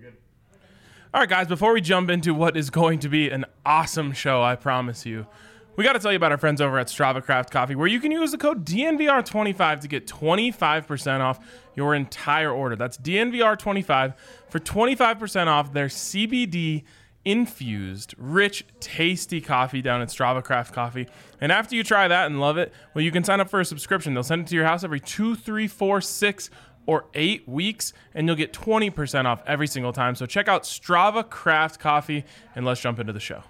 All right, guys, before we jump into what is going to be an awesome show, I promise you, we got to tell you about our friends over at Strava Craft Coffee, where you can use the code DNVR25 to get 25% off your entire order. That's DNVR25 for 25% off their CBD infused, rich, tasty coffee down at Strava Craft Coffee. And after you try that and love it, well, you can sign up for a subscription. They'll send it to your house every 2, 3, 4, 6, or 8 weeks, and you'll get 20% off every single time. So check out Strava Craft Coffee, and let's jump into the show.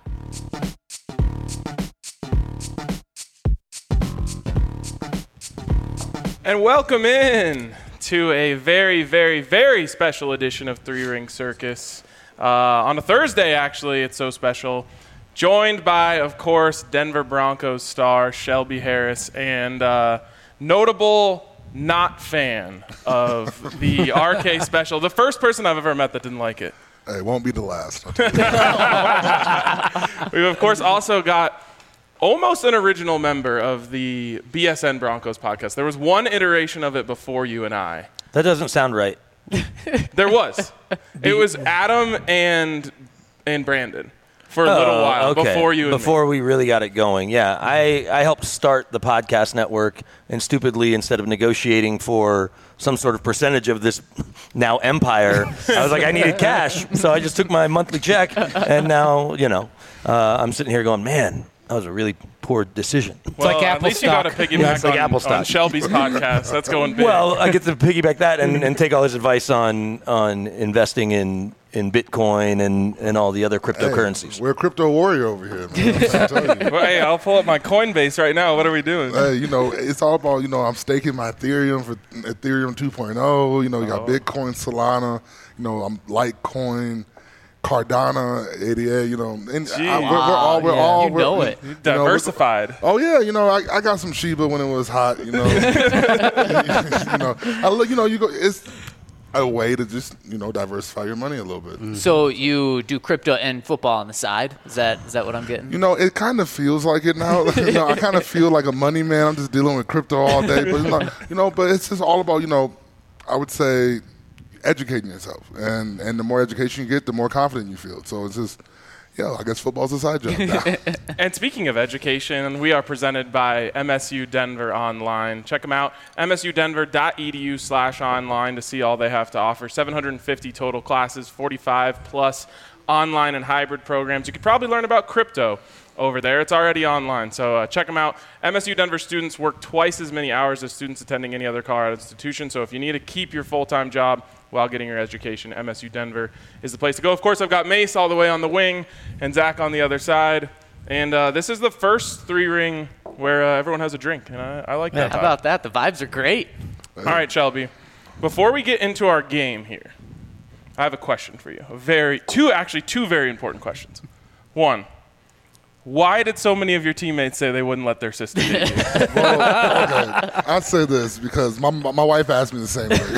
And welcome in to a very, very, very special edition of Three Ring Circus. On a Thursday, actually, it's so special. Joined by, of course, Denver Broncos star Shelby Harris and notable not fan of the RK special. The first person I've ever met that didn't like it. Hey, it won't be the last. We've, of course, also got almost an original member of the BSN Broncos podcast. There was one iteration of it before you and I. That doesn't sound right. There was. It was Adam and Brandon for a little while before you and Before me. we really got it going. Yeah, I helped start the podcast network, and stupidly, instead of negotiating for some sort of percentage of this now empire, I was like, I needed cash, so I just took my monthly check, and now, I'm sitting here going, man, that was a really poor decision. Well, like at Apple least stock. you got to piggyback Yeah, it's like Apple on stock. Shelby's podcast. That's going big. Well, I get to piggyback that and take all his advice on investing in Bitcoin and all the other cryptocurrencies. Hey, we're a crypto warrior over here, man. I'm telling you. Well, hey, I'll pull up my Coinbase right now. What are we doing? Hey, it's all about, I'm staking my Ethereum for Ethereum 2.0. You got Bitcoin, Solana, I'm Litecoin, Cardano, 88, and we're all it. Diversified. Oh yeah, I got some Shiba when it was hot. It's a way to just diversify your money a little bit. So you do crypto and football on the side? Is that what I'm getting? It kind of feels like it now. I kind of feel like a money man. I'm just dealing with crypto all day, but but it's just all about I would say educating yourself, and the more education you get, the more confident you feel. So it's just, I guess football's a side job. And speaking of education, we are presented by MSU Denver Online. Check them out, msudenver.edu/online to see all they have to offer. 750 total classes, 45 plus online and hybrid programs. You could probably learn about crypto over there. It's already online, so check them out. MSU Denver students work twice as many hours as students attending any other Colorado institution, so if you need to keep your full-time job while getting your education, MSU Denver is the place to go. Of course, I've got Mace all the way on the wing and Zach on the other side, and this is the first three-ring where everyone has a drink, and I like that. How about that? The vibes are great. All right, Shelby, before we get into our game here, I have a question for you. Two very important questions. One, why did so many of your teammates say they wouldn't let their sister date you? Well, okay. I'd say this because my wife asked me the same thing.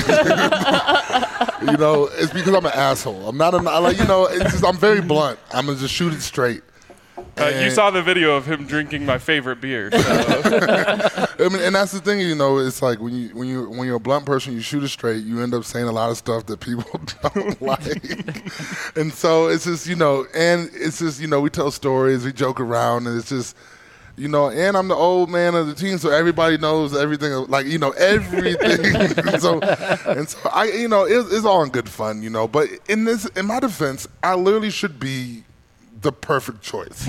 It's because I'm an asshole. I'm not it's just, I'm very blunt. I'm going to just shoot it straight. You saw the video of him drinking my favorite beer. So. And that's the thing, it's like when you're a blunt person, you shoot it straight, you end up saying a lot of stuff that people don't like. And so it's just, and it's just, we tell stories, we joke around, and it's just, and I'm the old man of the team, so everybody knows everything, everything. so I, it's all in good fun, but in my defense, I literally should be the perfect choice.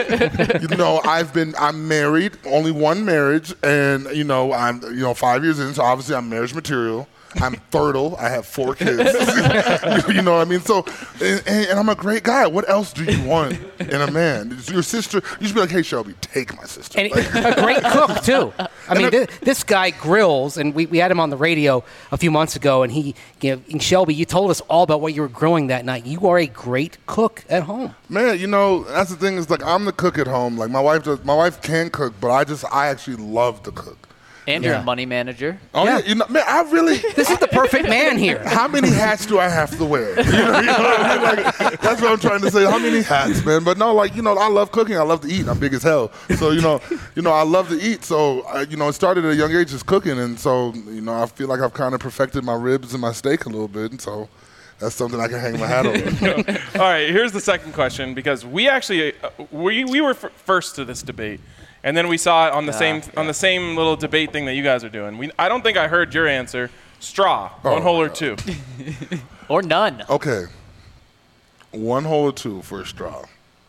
I'm married, only one marriage, and I'm 5 years in, so obviously I'm marriage material. I'm fertile. I have 4 kids. You know what I mean? So, and I'm a great guy. What else do you want in a man? Your sister, you should be like, hey, Shelby, take my sister. And a great cook, too. I mean, this guy grills, and we had him on the radio a few months ago, and and Shelby, you told us all about what you were grilling that night. You are a great cook at home. Man, that's the thing is, I'm the cook at home. Like, my wife can cook, but I actually love to cook. And you're a money manager. Oh, yeah. Man, I really... This is the perfect man here. How many hats do I have to wear? You know what I mean? That's what I'm trying to say. How many hats, man? But no, I love cooking. I love to eat. I'm big as hell. So, I love to eat. So, it started at a young age just cooking. And so, I feel like I've kind of perfected my ribs and my steak a little bit. And so... that's something I can hang my hat on. All right, here's the second question, because we actually we were first to this debate, and then we saw it on the same little debate thing that you guys are doing. I don't think I heard your answer. Straw, one hole or two. Or none. Okay. 1 hole or 2 for a straw.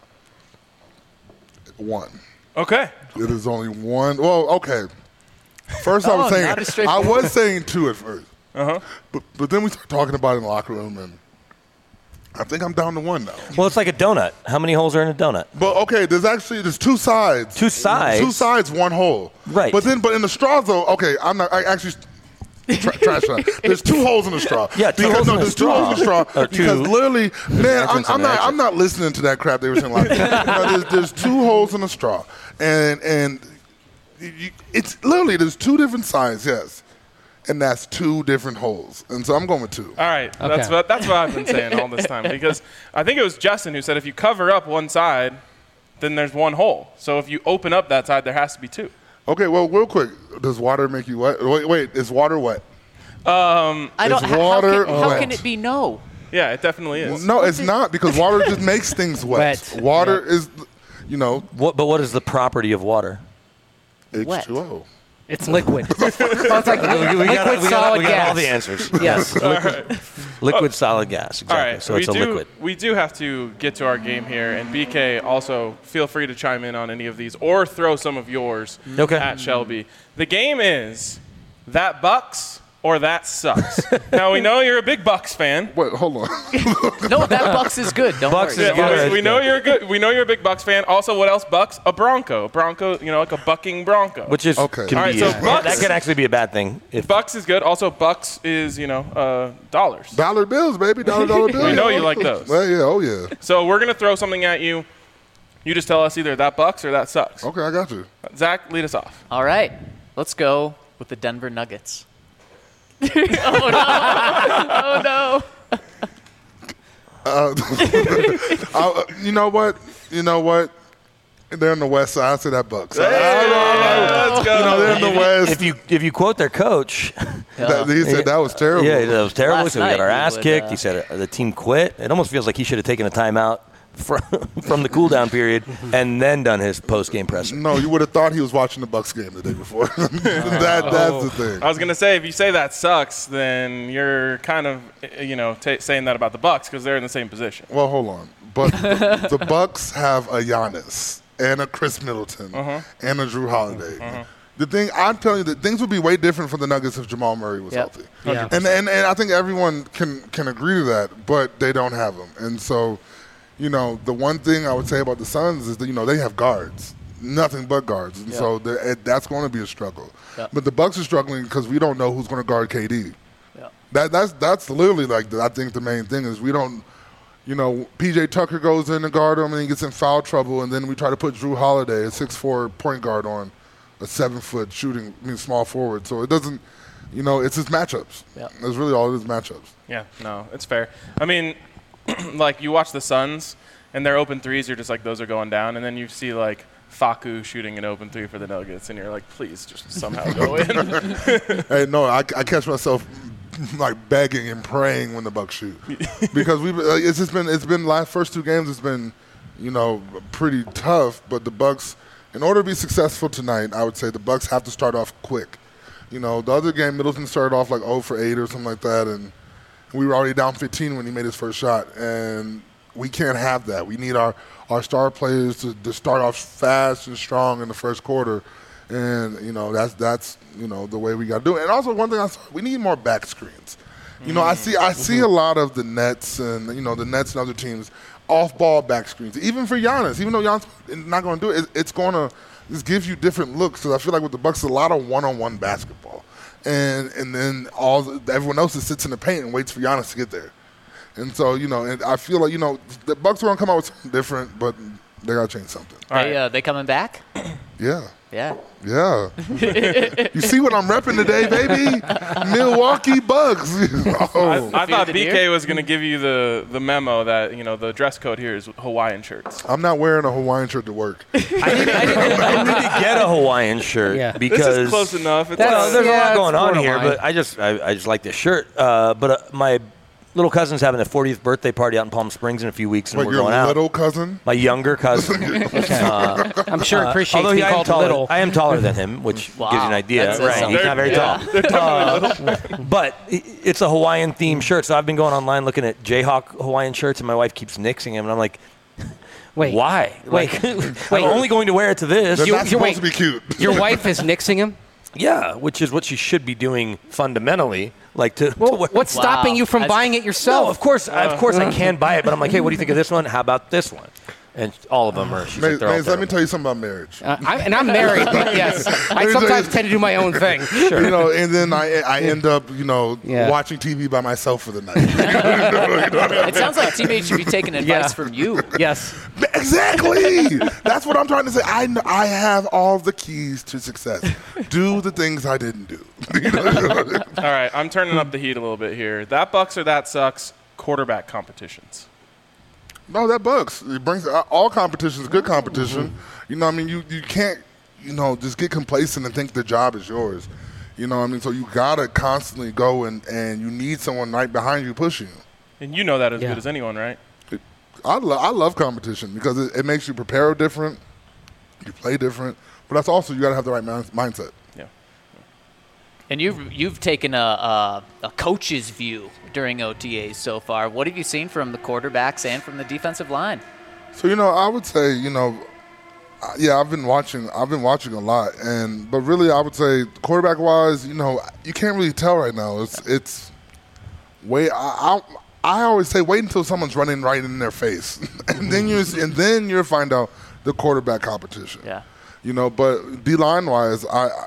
1. Okay. It is only 1. Well, okay. First I was not as saying straightforward. 2 at first. But then we started talking about it in the locker room, and I think I'm down to 1 now. Well, it's like a donut. How many holes are in a donut? But okay, there's 2 sides. 2 sides? 2 sides, 1 hole. Right. But in the straw though, okay, I actually trash that. There's 2 holes in the straw. Yeah, 2 holes in the there's 2 holes in the straw. Or Because 2 literally, man, entrance and exit. I'm not listening to that crap they were saying. Like, there's 2 holes in the straw, and it's literally there's 2 different sides, yes, and that's 2 different holes, and so I'm going with 2. All right, Okay. that's what I've been saying all this time, because I think it was Justin who said if you cover up one side, then there's 1 hole. So if you open up that side, there has to be 2. Okay, well, real quick, does water make you wet? Wait, is water wet? I don't. Is How water can wet? it be no? Yeah, it definitely is. No, it's not, because water just makes things wet. Wet. Water is, What is the property of water? Wet. H2O. It's liquid. Oh, it's like liquid solid we got gas. all the answers. Yes. Liquid solid gas. Exactly. All right, So it's a liquid. We do have to get to our game here, and BK, also feel free to chime in on any of these or throw some of yours Okay. at Shelby. The game is that Bucks or that sucks. Now, we know you're a big Bucks fan. Wait, hold on. No, that Bucks is good. Don't Bucks worry. is good. We know you're good. We know you're a big Bucks fan. Also, what else? Bucks, a Bronco. Bronco, like a bucking Bronco. Which is Okay. can All right, be so Bucks- that could actually be a bad thing. If Bucks is good. Also, Bucks is dollars. Dollar bills, baby. Dollar bills. We know you like those. Well, yeah, oh yeah. So we're gonna throw something at you. You just tell us either that Bucks or that sucks. Okay, I got you. Zach, lead us off. All right, let's go with the Denver Nuggets. You know what? They're in the West Side. I say that Bucks. Let's go. They're in the West. if you quote their coach, He said that was terrible. yeah, that was terrible. Last So we got our night ass he would, kicked. He said the team quit. It almost feels like he should have taken a timeout from the cool down period and then done his post game presser. No, you would have thought he was watching the Bucks game the day before. That's the thing. I was gonna say, if you say that sucks, then you're kind of saying that about the Bucks because they're in the same position. Well, hold on. But the Bucks have a Giannis and a Chris Middleton and a Drew Holiday. The thing I'm telling you, that things would be way different for the Nuggets if Jamal Murray was Yep. healthy. Yeah. And I think everyone can agree to that, but they don't have them. And so, the one thing I would say about the Suns is that they have guards, nothing but guards, and so that's going to be a struggle. Yep. But the Bucks are struggling because we don't know who's going to guard KD. Yep. That's literally I think the main thing is we don't. PJ Tucker goes in to guard him and he gets in foul trouble, and then we try to put Drew Holiday, a 6'4" point guard, on a 7-foot small forward. So it doesn't, it's just matchups. Yeah. That's really all it is, matchups. Yeah, no, it's fair. I mean, like you watch the Suns and their open threes, you're just like, those are going down, and then you see like Facu shooting an open 3 for the Nuggets, and you're like, please just somehow go in. Hey, no, I catch myself begging and praying when the Bucks shoot because it's been first 2 games it's been pretty tough, but the Bucks, in order to be successful tonight, I would say the Bucks have to start off quick. The other game Middleton started off 0 for 8 or something like that, and we were already down 15 when he made his first shot, and we can't have that. We need our star players to start off fast and strong in the first quarter. And, that's the way we got to do it. And also one thing we need more back screens. I see a lot of the Nets and, the Nets and other teams off-ball back screens. Even for Giannis, even though Giannis is not going to do it, it's going to just give you different looks. Because I feel like with the Bucks, it's a lot of one-on-one basketball. And then everyone else just sits in the paint and waits for Giannis to get there. And so, and I feel like, the Bucks are going to come out with something different, but they got to change something. They coming back? Yeah. Yeah. Yeah. You see what I'm repping today, baby? Milwaukee Bucks. I thought it BK here? was going to give you the memo that, the dress code here is Hawaiian shirts. I'm not wearing a Hawaiian shirt to work. I need to get a Hawaiian shirt Yeah. because This is close enough. It's Well, there's a lot it's going on borderline. here, but I just like this shirt. But my little cousin's having a 40th birthday party out in Palm Springs in a few weeks, and Wait, we're your going out. little cousin? My younger cousin. I'm sure appreciates Although being I am called taller, little. I am taller than him, which gives you an idea. That says Right, something. he's not very tall. But it's a Hawaiian-themed shirt, so I've been going online looking at Jayhawk Hawaiian shirts, and my wife keeps nixing them, and I'm like, Wait, why? Wait, I'm only going to wear it to this. They're not supposed wait. to be cute. Your wife is nixing him? Yeah, which is what she should be doing fundamentally. Like to Well, wear. what's stopping you from That's- buying it yourself? No, of course I can buy it, but I'm like, hey, what do you think of this one? How about this one? And all of them are. She's like, Maze, they're all let me terrible. tell you something about marriage. I'm married, but yes, I sometimes tend to do my own thing. You know, and then I end up, Yeah. watching TV by myself for the night. It sounds like teammates should be taking advice from you. Yes. Exactly. That's what I'm trying to say. I have all the keys to success. Do the things I didn't do. All right, I'm turning up the heat a little bit here. That Bucks or that sucks quarterback competitions. No, that bugs. It brings all competition is good competition. You know, what I mean, you can't, just get complacent and think the job is yours. You know what I mean? So you gotta constantly go and you need someone right behind you pushing you. And you know that as Yeah. good as anyone, right? I love competition because it makes you prepare different, you play different, but that's also you gotta have the right mindset. Yeah. And you've taken a coach's view during OTAs so far. What have you seen from the quarterbacks and from the defensive line? So I would say yeah, I've been watching a lot, but really I would say quarterback wise, you can't really tell right now. It's way I always say wait until someone's running right in their face, and then you find out the quarterback competition. Yeah. But D line wise,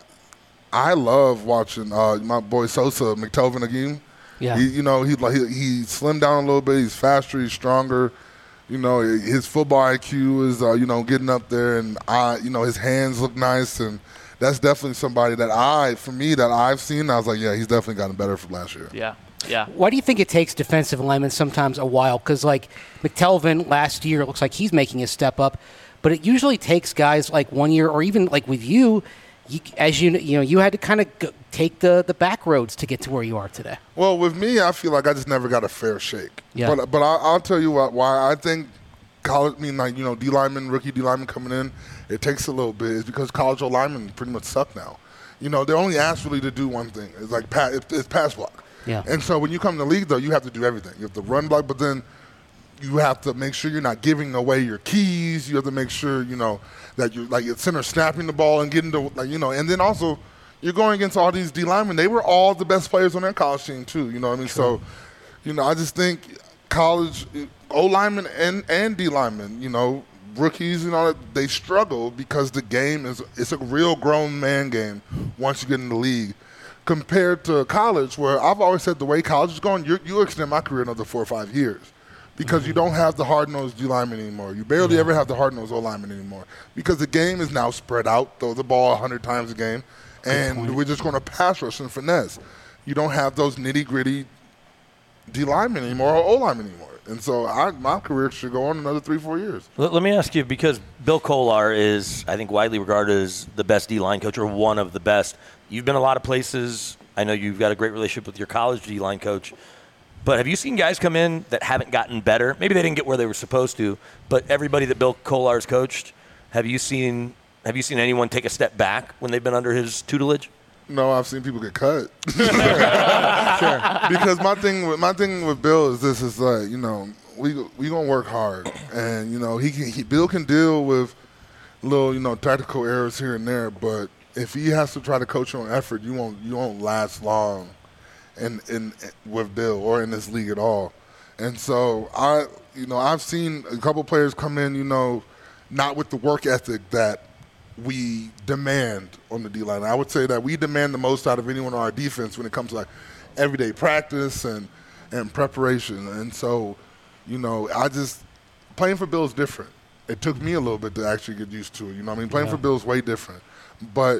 I love watching my boy Sosa McTelvin again. Yeah. He he slimmed down a little bit. He's faster. He's stronger. His football IQ is getting up there, and his hands look nice, and that's definitely somebody that I've seen. I was like, yeah, he's definitely gotten better from last year. Yeah. Yeah. Why do you think it takes defensive linemen sometimes a while? Because like McTelvin last year, it looks like he's making a step up, but it usually takes guys like 1 year, or even like with you had to kind of take the back roads to get to where you are today. Well, with me, I feel like I just never got a fair shake. Yeah. But I'll tell you why I think college, D linemen, rookie D linemen coming in, it takes a little bit. Is because college O linemen pretty much suck now. They're only asked really to do one thing. It's like it's pass block. Yeah. And so when you come to the league, though, you have to do everything. You have to run block, but then you have to make sure you're not giving away your keys. You have to make sure, that you're center snapping the ball and getting to, and then also you're going against all these D linemen. They were all the best players on their college team too. You know what I mean? True. So, I just think college O linemen and D linemen, rookies and all that, they struggle because the game it's a real grown man game once you get in the league. Compared to college, where I've always said the way college is going, you extend my career another 4 or 5 years because you don't have the hard-nosed D lineman anymore. You barely ever have the hard-nosed O lineman anymore because the game is now spread out, throw the ball 100 times a game, and we're just going to pass rush and finesse. You don't have those nitty-gritty D linemen anymore or O linemen anymore. And so my career should go on another 3-4 years. Let me ask you, because Bill Kolar is, I think, widely regarded as the best D-line coach or one of the best. You've been a lot of places. I know you've got a great relationship with your college D-line coach. But have you seen guys come in that haven't gotten better? Maybe they didn't get where they were supposed to, but everybody that Bill Kolar's coached, have you seen anyone take a step back when they've been under his tutelage? No, I've seen people get cut. Sure. Because my thing with Bill is this: is like we gonna work hard, and Bill can deal with little tactical errors here and there, but if he has to try to coach on effort, you won't last long, in with Bill or in this league at all. And so I've seen a couple players come in, not with the work ethic that we demand on the D-line. I would say that we demand the most out of anyone on our defense when it comes to like everyday practice and preparation. And so, playing for Bill is different. It took me a little bit to actually get used to it. Playing for Bill is way different. But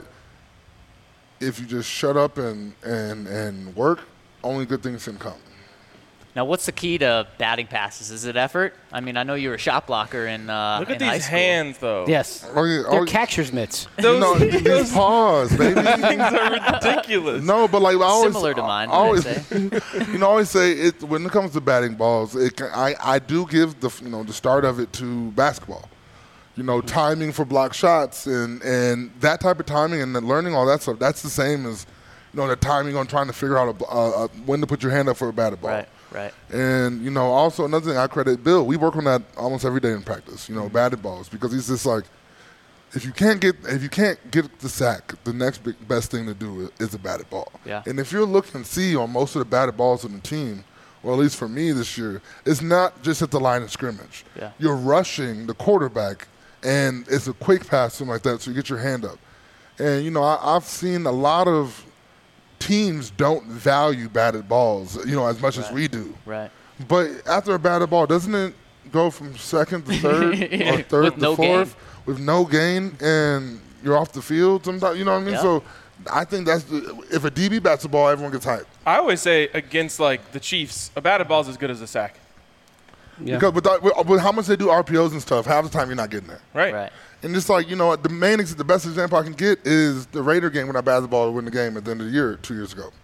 if you just shut up and work, only good things can come. Now, what's the key to batting passes? Is it effort? I mean, I know you were a shot blocker in Look at in high these school. hands, though. Yes. Oh, yeah, They're oh, catcher's mitts. these paws, baby. Things are ridiculous. No, but like I always, Similar to mine, I always, I'd say. I always say it when it comes to batting balls. I do give the start of it to basketball. Timing for block shots and that type of timing and then learning all that stuff. That's the same as the timing on trying to figure out when to put your hand up for a batted ball. Right. And also another thing I credit Bill. We work on that almost every day in practice. Batted balls, because he's just like, if you can't get the sack, the next best thing to do is a batted ball. Yeah. And if you're looking to see on most of the batted balls on the team, or at least for me this year, it's not just at the line of scrimmage. Yeah. You're rushing the quarterback, and it's a quick pass, something like that, so you get your hand up. And I've seen a lot of teams don't value batted balls, as much as we do. Right. But after a batted ball, doesn't it go from second to third or third With to no fourth gain. with no gain, and you're off the field sometimes? You know what I mean? Yeah. So I think if a DB bats the ball, everyone gets hyped. I always say against like the Chiefs, a batted ball is as good as a sack. Yeah. Because with how much they do RPOs and stuff, half the time you're not getting there. Right. And just like, the best example I can get is the Raider game when I batted the ball to win the game at the end of the year 2 years ago.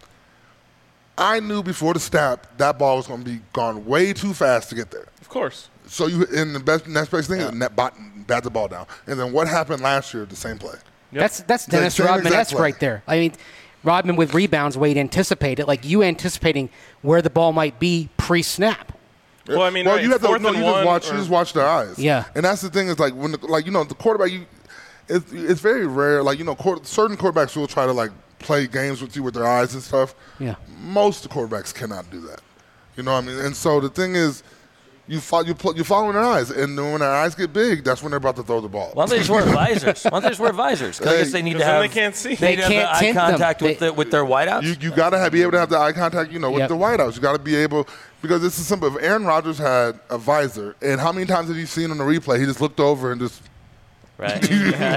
I knew before the snap that ball was going to be gone way too fast to get there. Of course. So the next best thing is bat the ball down. And then what happened last year, the same play. Yep. That's Dennis same exact Rodman-esque play. right there. I mean, Rodman with rebounds, Wade anticipated, like you anticipating where the ball might be pre-snap. Well, I mean, right, you have to fourth and one, you just watch their eyes. Yeah. And that's the thing is like when the quarterback, it's very rare. Like certain quarterbacks will try to like play games with you with their eyes and stuff. Yeah. Most quarterbacks cannot do that. You know what I mean? And so the thing is, you're following their eyes, and then when their eyes get big, that's when they're about to throw the ball. Why don't they just wear visors? Why don't they just wear visors? 'Cause I guess they need to Then have. they can't see. They need to can't have the eye tint them. contact with their wideouts. You got to be able to have the eye contact, with Yep. the wideouts. You got to be able, because this is simple. If Aaron Rodgers had a visor, and how many times have you seen on the replay, he just looked over and just. Right.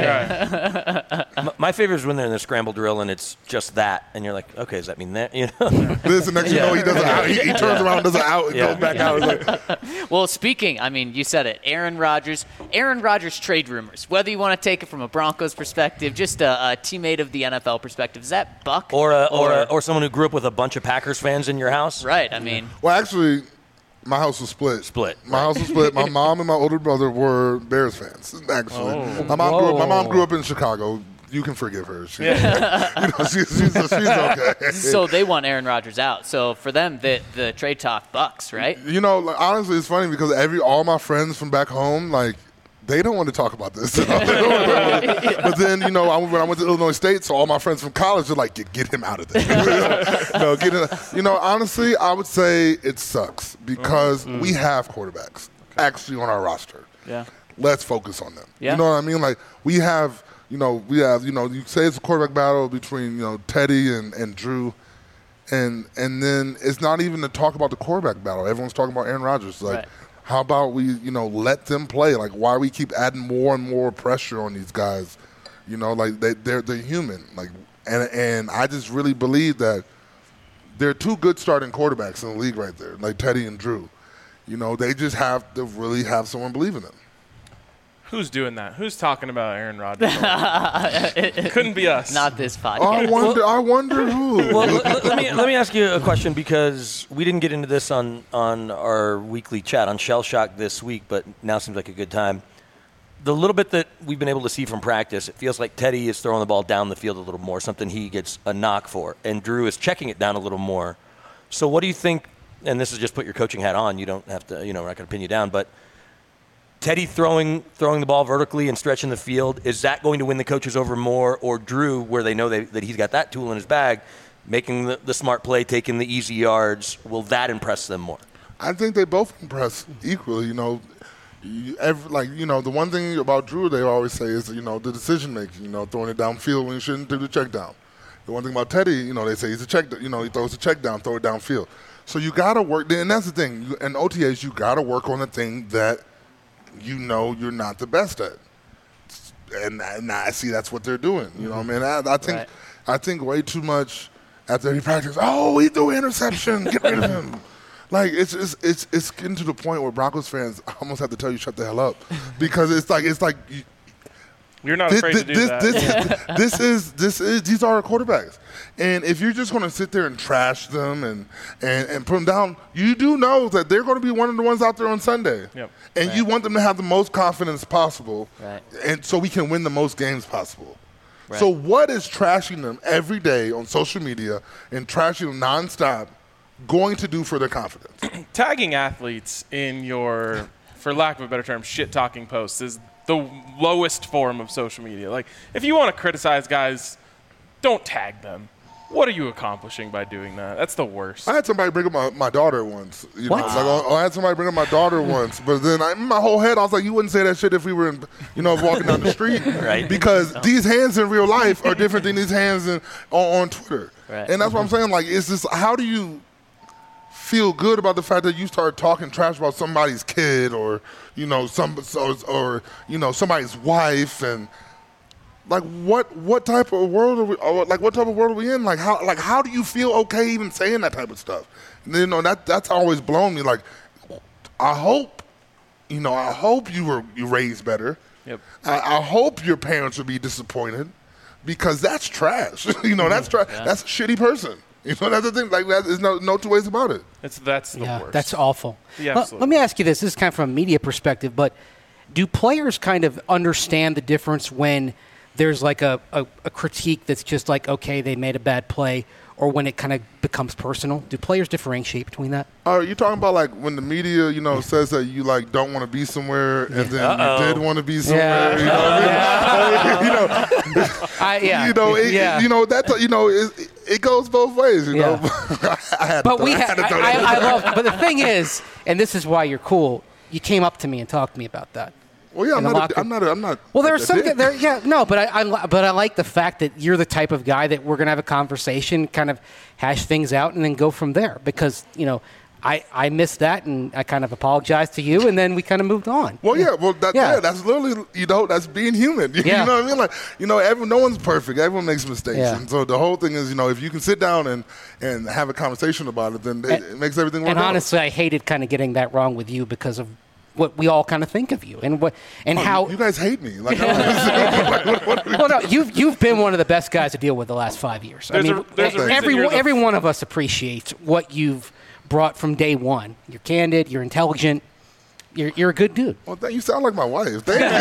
My favorite is when they're in the scramble drill and it's just that, and you're like, okay, does that mean that? This and next you know, he does it out. He turns around, does it out, and goes back out. It's like, Well, speaking, I mean, you said it, Aaron Rodgers trade rumors. Whether you want to take it from a Broncos perspective, just a teammate of the NFL perspective, is that Buck or someone who grew up with a bunch of Packers fans in your house? right? I mean, well, actually, my house was split. My house was split. My mom and my older brother were Bears fans. Actually, my mom grew up in Chicago. You can forgive her. She's okay. so they want Aaron Rodgers out. So for them, the trade talk Bucks, right? Honestly, it's funny because all my friends from back home, like, they don't want to talk about this. But then, when I went to Illinois State, so all my friends from college are like, get him out of there. Honestly, I would say it sucks because we have quarterbacks actually on our roster. Yeah. Let's focus on them. Yeah. You know what I mean? Like, you say it's a quarterback battle between, Teddy and Drew. And then it's not even to talk about the quarterback battle. Everyone's talking about Aaron Rodgers. Like, right. How about we, let them play? Like, why we keep adding more and more pressure on these guys? Like they're human. Like, and I just really believe that they're two good starting quarterbacks in the league right there, like Teddy and Drew. They just have to really have someone believe in them. Who's doing that? Who's talking about Aaron Rodgers? It couldn't be us. Not this podcast. I wonder who. Well, let me ask you a question because we didn't get into this on our weekly chat on Shell Shock this week, but now seems like a good time. The little bit that we've been able to see from practice, it feels like Teddy is throwing the ball down the field a little more, something he gets a knock for, and Drew is checking it down a little more. So what do you think, and this is just put your coaching hat on, you don't have to, we're not going to pin you down, but Teddy throwing the ball vertically and stretching the field, is that going to win the coaches over more, or Drew, where they know that he's got that tool in his bag, making the smart play, taking the easy yards, will that impress them more? I think they both impress equally. The one thing about Drew they always say is, the decision making, throwing it downfield when you shouldn't do the check down. The one thing about Teddy, they say he's a check, he throws a check down, throw it downfield. So you got to work, and that's the thing. In OTAs, you got to work on the thing that you're not the best at. And I see that's what they're doing. You know what I mean? I think way too much after every practice, he threw an interception, get rid of him. Like it's getting to the point where Broncos fans almost have to tell you shut the hell up, because it's like you're not afraid to do that. These are our quarterbacks, and if you're just going to sit there and trash them and put them down, you do know that they're going to be one of the ones out there on Sunday, and you want them to have the most confidence possible, and so we can win the most games possible. Right. So what is trashing them every day on social media and trashing them nonstop going to do for their confidence? Tagging athletes in your, for lack of a better term, shit-talking posts is the lowest form of social media. Like, if you want to criticize guys, don't tag them. What are you accomplishing by doing that? That's the worst. I had somebody bring up my daughter once. What? I had somebody bring up my daughter once, but then in my whole head, I was like, you wouldn't say that shit if we were, walking down the street. Right. Because these hands in real life are different than these hands on Twitter. Right. And that's what I'm saying. Like, it's just, how do you feel good about the fact that you start talking trash about somebody's kid or somebody's wife, and like what type of world are we? What type of world are we in? Like how do you feel okay even saying that type of stuff? And, that's always blown me. Like, I hope you raised better. Yep. I hope your parents would be disappointed, because that's trash. That's trash. Yeah. That's a shitty person. That's the thing. Like, there's no two ways about it. That's the worst. That's awful. Yeah, Let me ask you this. This is kind of from a media perspective, but do players kind of understand the difference when there's like a critique that's just like, okay, they made a bad play, or when it kind of becomes personal? Do players differentiate between that? Are you talking about like when the media, says that you like don't want to be somewhere, and then you did want to be somewhere? It goes both ways. But the thing is, and this is why you're cool, you came up to me and talked to me about that. Well, yeah, I'm not. Well, there's something there. Yeah, no, but I like the fact that you're the type of guy that we're gonna have a conversation, kind of hash things out, and then go from there. Because I missed that, and I kind of apologized to you, and then we kind of moved on. Well, that's literally that's being human. You know what I mean? Like, no one's perfect. Everyone makes mistakes, and so the whole thing is, if you can sit down and have a conversation about it, then it makes everything work. And out. honestly, I hated kind of getting that wrong with you because of what we all kind of think of you, how you guys hate me. Like, well, no, you've been one of the best guys to deal with the last 5 years. Every one of us appreciates what you've brought from day one. You're candid. You're intelligent. You're a good dude. Well, you sound like my wife. Thank you.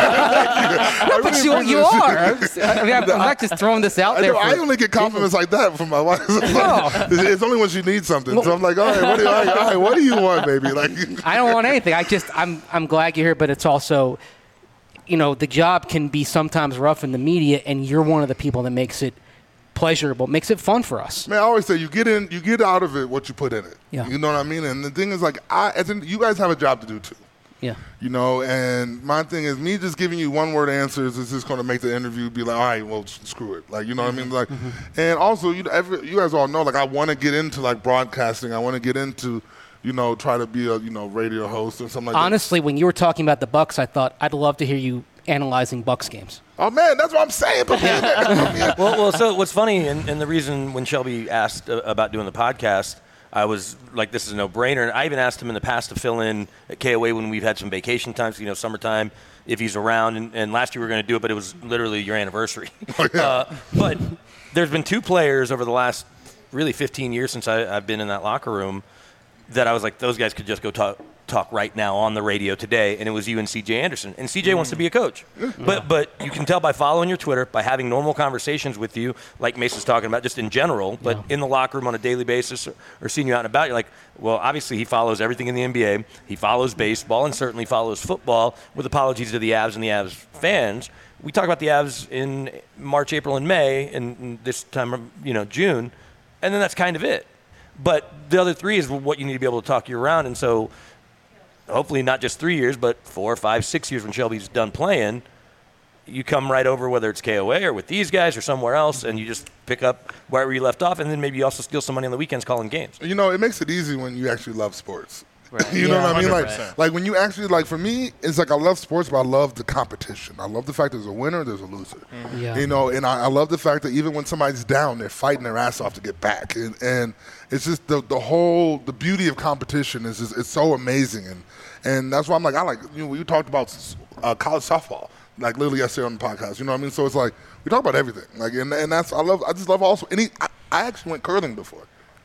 But you are. I'm not just throwing this out there. I only get compliments like that from my wife. It's only when she needs something. So I'm like, all right, what do you want, baby? Like, I don't want anything. I'm glad you're here, but it's also, the job can be sometimes rough in the media, and you're one of the people that makes it pleasurable, makes it fun for us. Man, I always say you get out of it what you put in it. Yeah. You know what I mean? And the thing is, like, you guys have a job to do too. Yeah. And my thing is, me just giving you one word answers is just going to make the interview be like, all right, well, screw it. Like, you know what I mean? Like, and also, you guys all know, like, I want to get into like broadcasting. I want to get into, try to be a radio host or something like that. Honestly, when you were talking about the Bucs, I thought I'd love to hear you analyzing Bucs games. Oh, man, that's what I'm saying. Well, so what's funny, and the reason when Shelby asked about doing the podcast, I was like, this is a no-brainer. And I even asked him in the past to fill in at KOA when we've had some vacation times, summertime, if he's around. And last year we were going to do it, but it was literally your anniversary. Oh, yeah. But there's been two players over the last really 15 years since I've been in that locker room that I was like, those guys could just go talk right now on the radio today, and it was you and CJ Anderson. And CJ wants to be a coach. But you can tell by following your Twitter, by having normal conversations with you, like Mason's talking about, just in general, but in the locker room on a daily basis or seeing you out and about, you're like, well, obviously he follows everything in the NBA. He follows baseball and certainly follows football, with apologies to the Avs and the Avs fans. We talk about the Avs in March, April, and May, and this time, June, and then that's kind of it. But the other three is what you need to be able to talk year-round, and so hopefully not just 3 years, but 4, 5, 6 years when Shelby's done playing, you come right over, whether it's KOA or with these guys or somewhere else, and you just pick up wherever you left off, and then maybe you also steal some money on the weekends calling games. It makes it easy when you actually love sports. Right. You know what I mean? 100%. Like when you actually, like for me, it's like I love sports, but I love the competition. I love the fact there's a winner, there's a loser. Yeah. You know, and I love the fact that even when somebody's down, they're fighting their ass off to get back. And it's just the beauty of competition is just, it's so amazing. And that's why I'm like, you talked about college softball, like literally yesterday on the podcast. You know what I mean? So it's like, we talk about everything. Like, and that's, I just love also, I actually went curling before.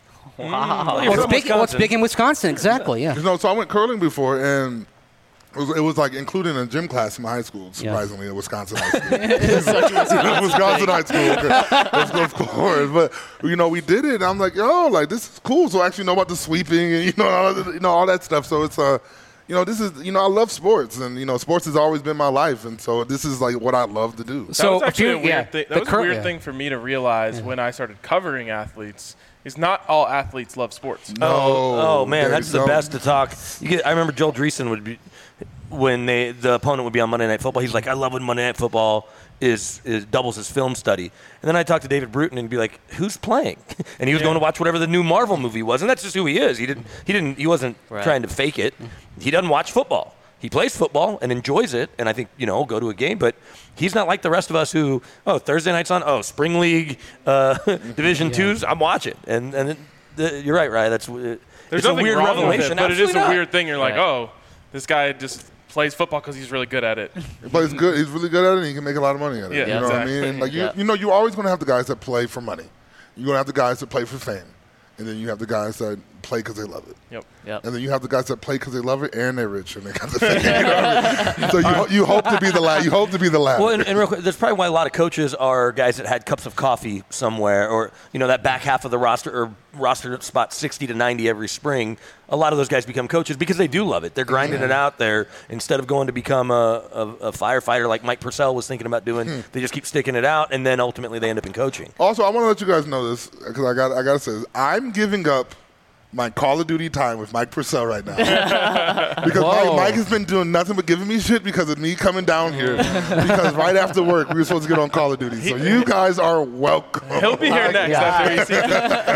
Wow. What's big in Wisconsin? Exactly. Yeah. You know, so I went curling before, and it was like included in a gym class in my high school. Surprisingly, at Wisconsin high school. Wisconsin high school, of course. But you know, we did it. And I'm like, like this is cool. So I actually know about the sweeping and all that stuff. So it's this is I love sports, and sports has always been my life, and so this is like what I love to do. That was actually a weird thing. That was a weird thing for me to realize when I started covering athletes. Is not all athletes love sports. Oh man, that's the best to talk. I remember Joel Dreesen would be when the opponent would be on Monday Night Football. He's like, I love when Monday Night Football is doubles as film study. And then I talked to David Bruton and be like, who's playing? And he was going to watch whatever the new Marvel movie was, and that's just who he is. He wasn't trying to fake it. He doesn't watch football. He plays football and enjoys it, and I think, go to a game. But he's not like the rest of us who, Thursday night's on, Spring League, Division Twos, I'm watching. And you're right, Ryan. There's a weird wrong revelation, with it, but it is a not. weird thing. You're like, this guy just plays football because he's really good at it. But he's good. He's really good at it, and he can make a lot of money at it. Yeah, you know what I mean? And like you're always going to have the guys that play for money. You're going to have the guys that play for fame. And then you have the guys that play because they love it. Yep. And then you have the guys that play because they love it and they're rich and they got the fame. You know what I mean? So you hope to be the last. You hope to be the last. Well, and real quick, that's probably why a lot of coaches are guys that had cups of coffee somewhere, or that back half of the roster spot 60 to 90 every spring. A lot of those guys become coaches because they do love it. They're grinding it out. They're instead of going to become a firefighter like Mike Purcell was thinking about doing, they just keep sticking it out, and then ultimately they end up in coaching. Also, I want to let you guys know this because I got to say this. I'm giving up my Call of Duty time with Mike Purcell right now. Because Mike has been doing nothing but giving me shit because of me coming down here. Because right after work, we were supposed to get on Call of Duty. So you guys are welcome. He'll be here next after he sees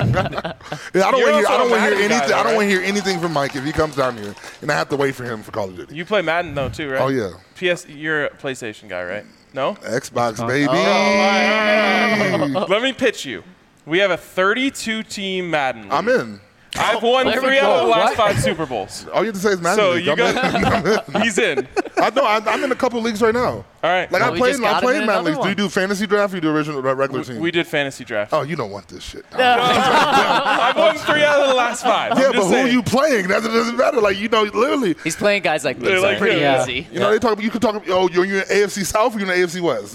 it. I don't want to hear anything from Mike if he comes down here, and I have to wait for him for Call of Duty. You play Madden, though, too, right? Oh, yeah. You're a PlayStation guy, right? No? Xbox, baby. Let me pitch you. We have a 32-team Madden league. I'm in. I've won 3 out of the last 5 Super Bowls. All you have to say is Madden. So league. you got he's in. I'm in a couple leagues right now. All right. Like I played Madden leagues. One. Do you do fantasy draft or you do regular team? We did fantasy draft. Oh, you don't want this shit. I've won 3 out of the last 5. Yeah, but who are you playing? That doesn't matter. Like, literally. He's playing guys like me. Like Pretty him. easy. They talk. You can talk. You're in AFC South or you're in AFC West.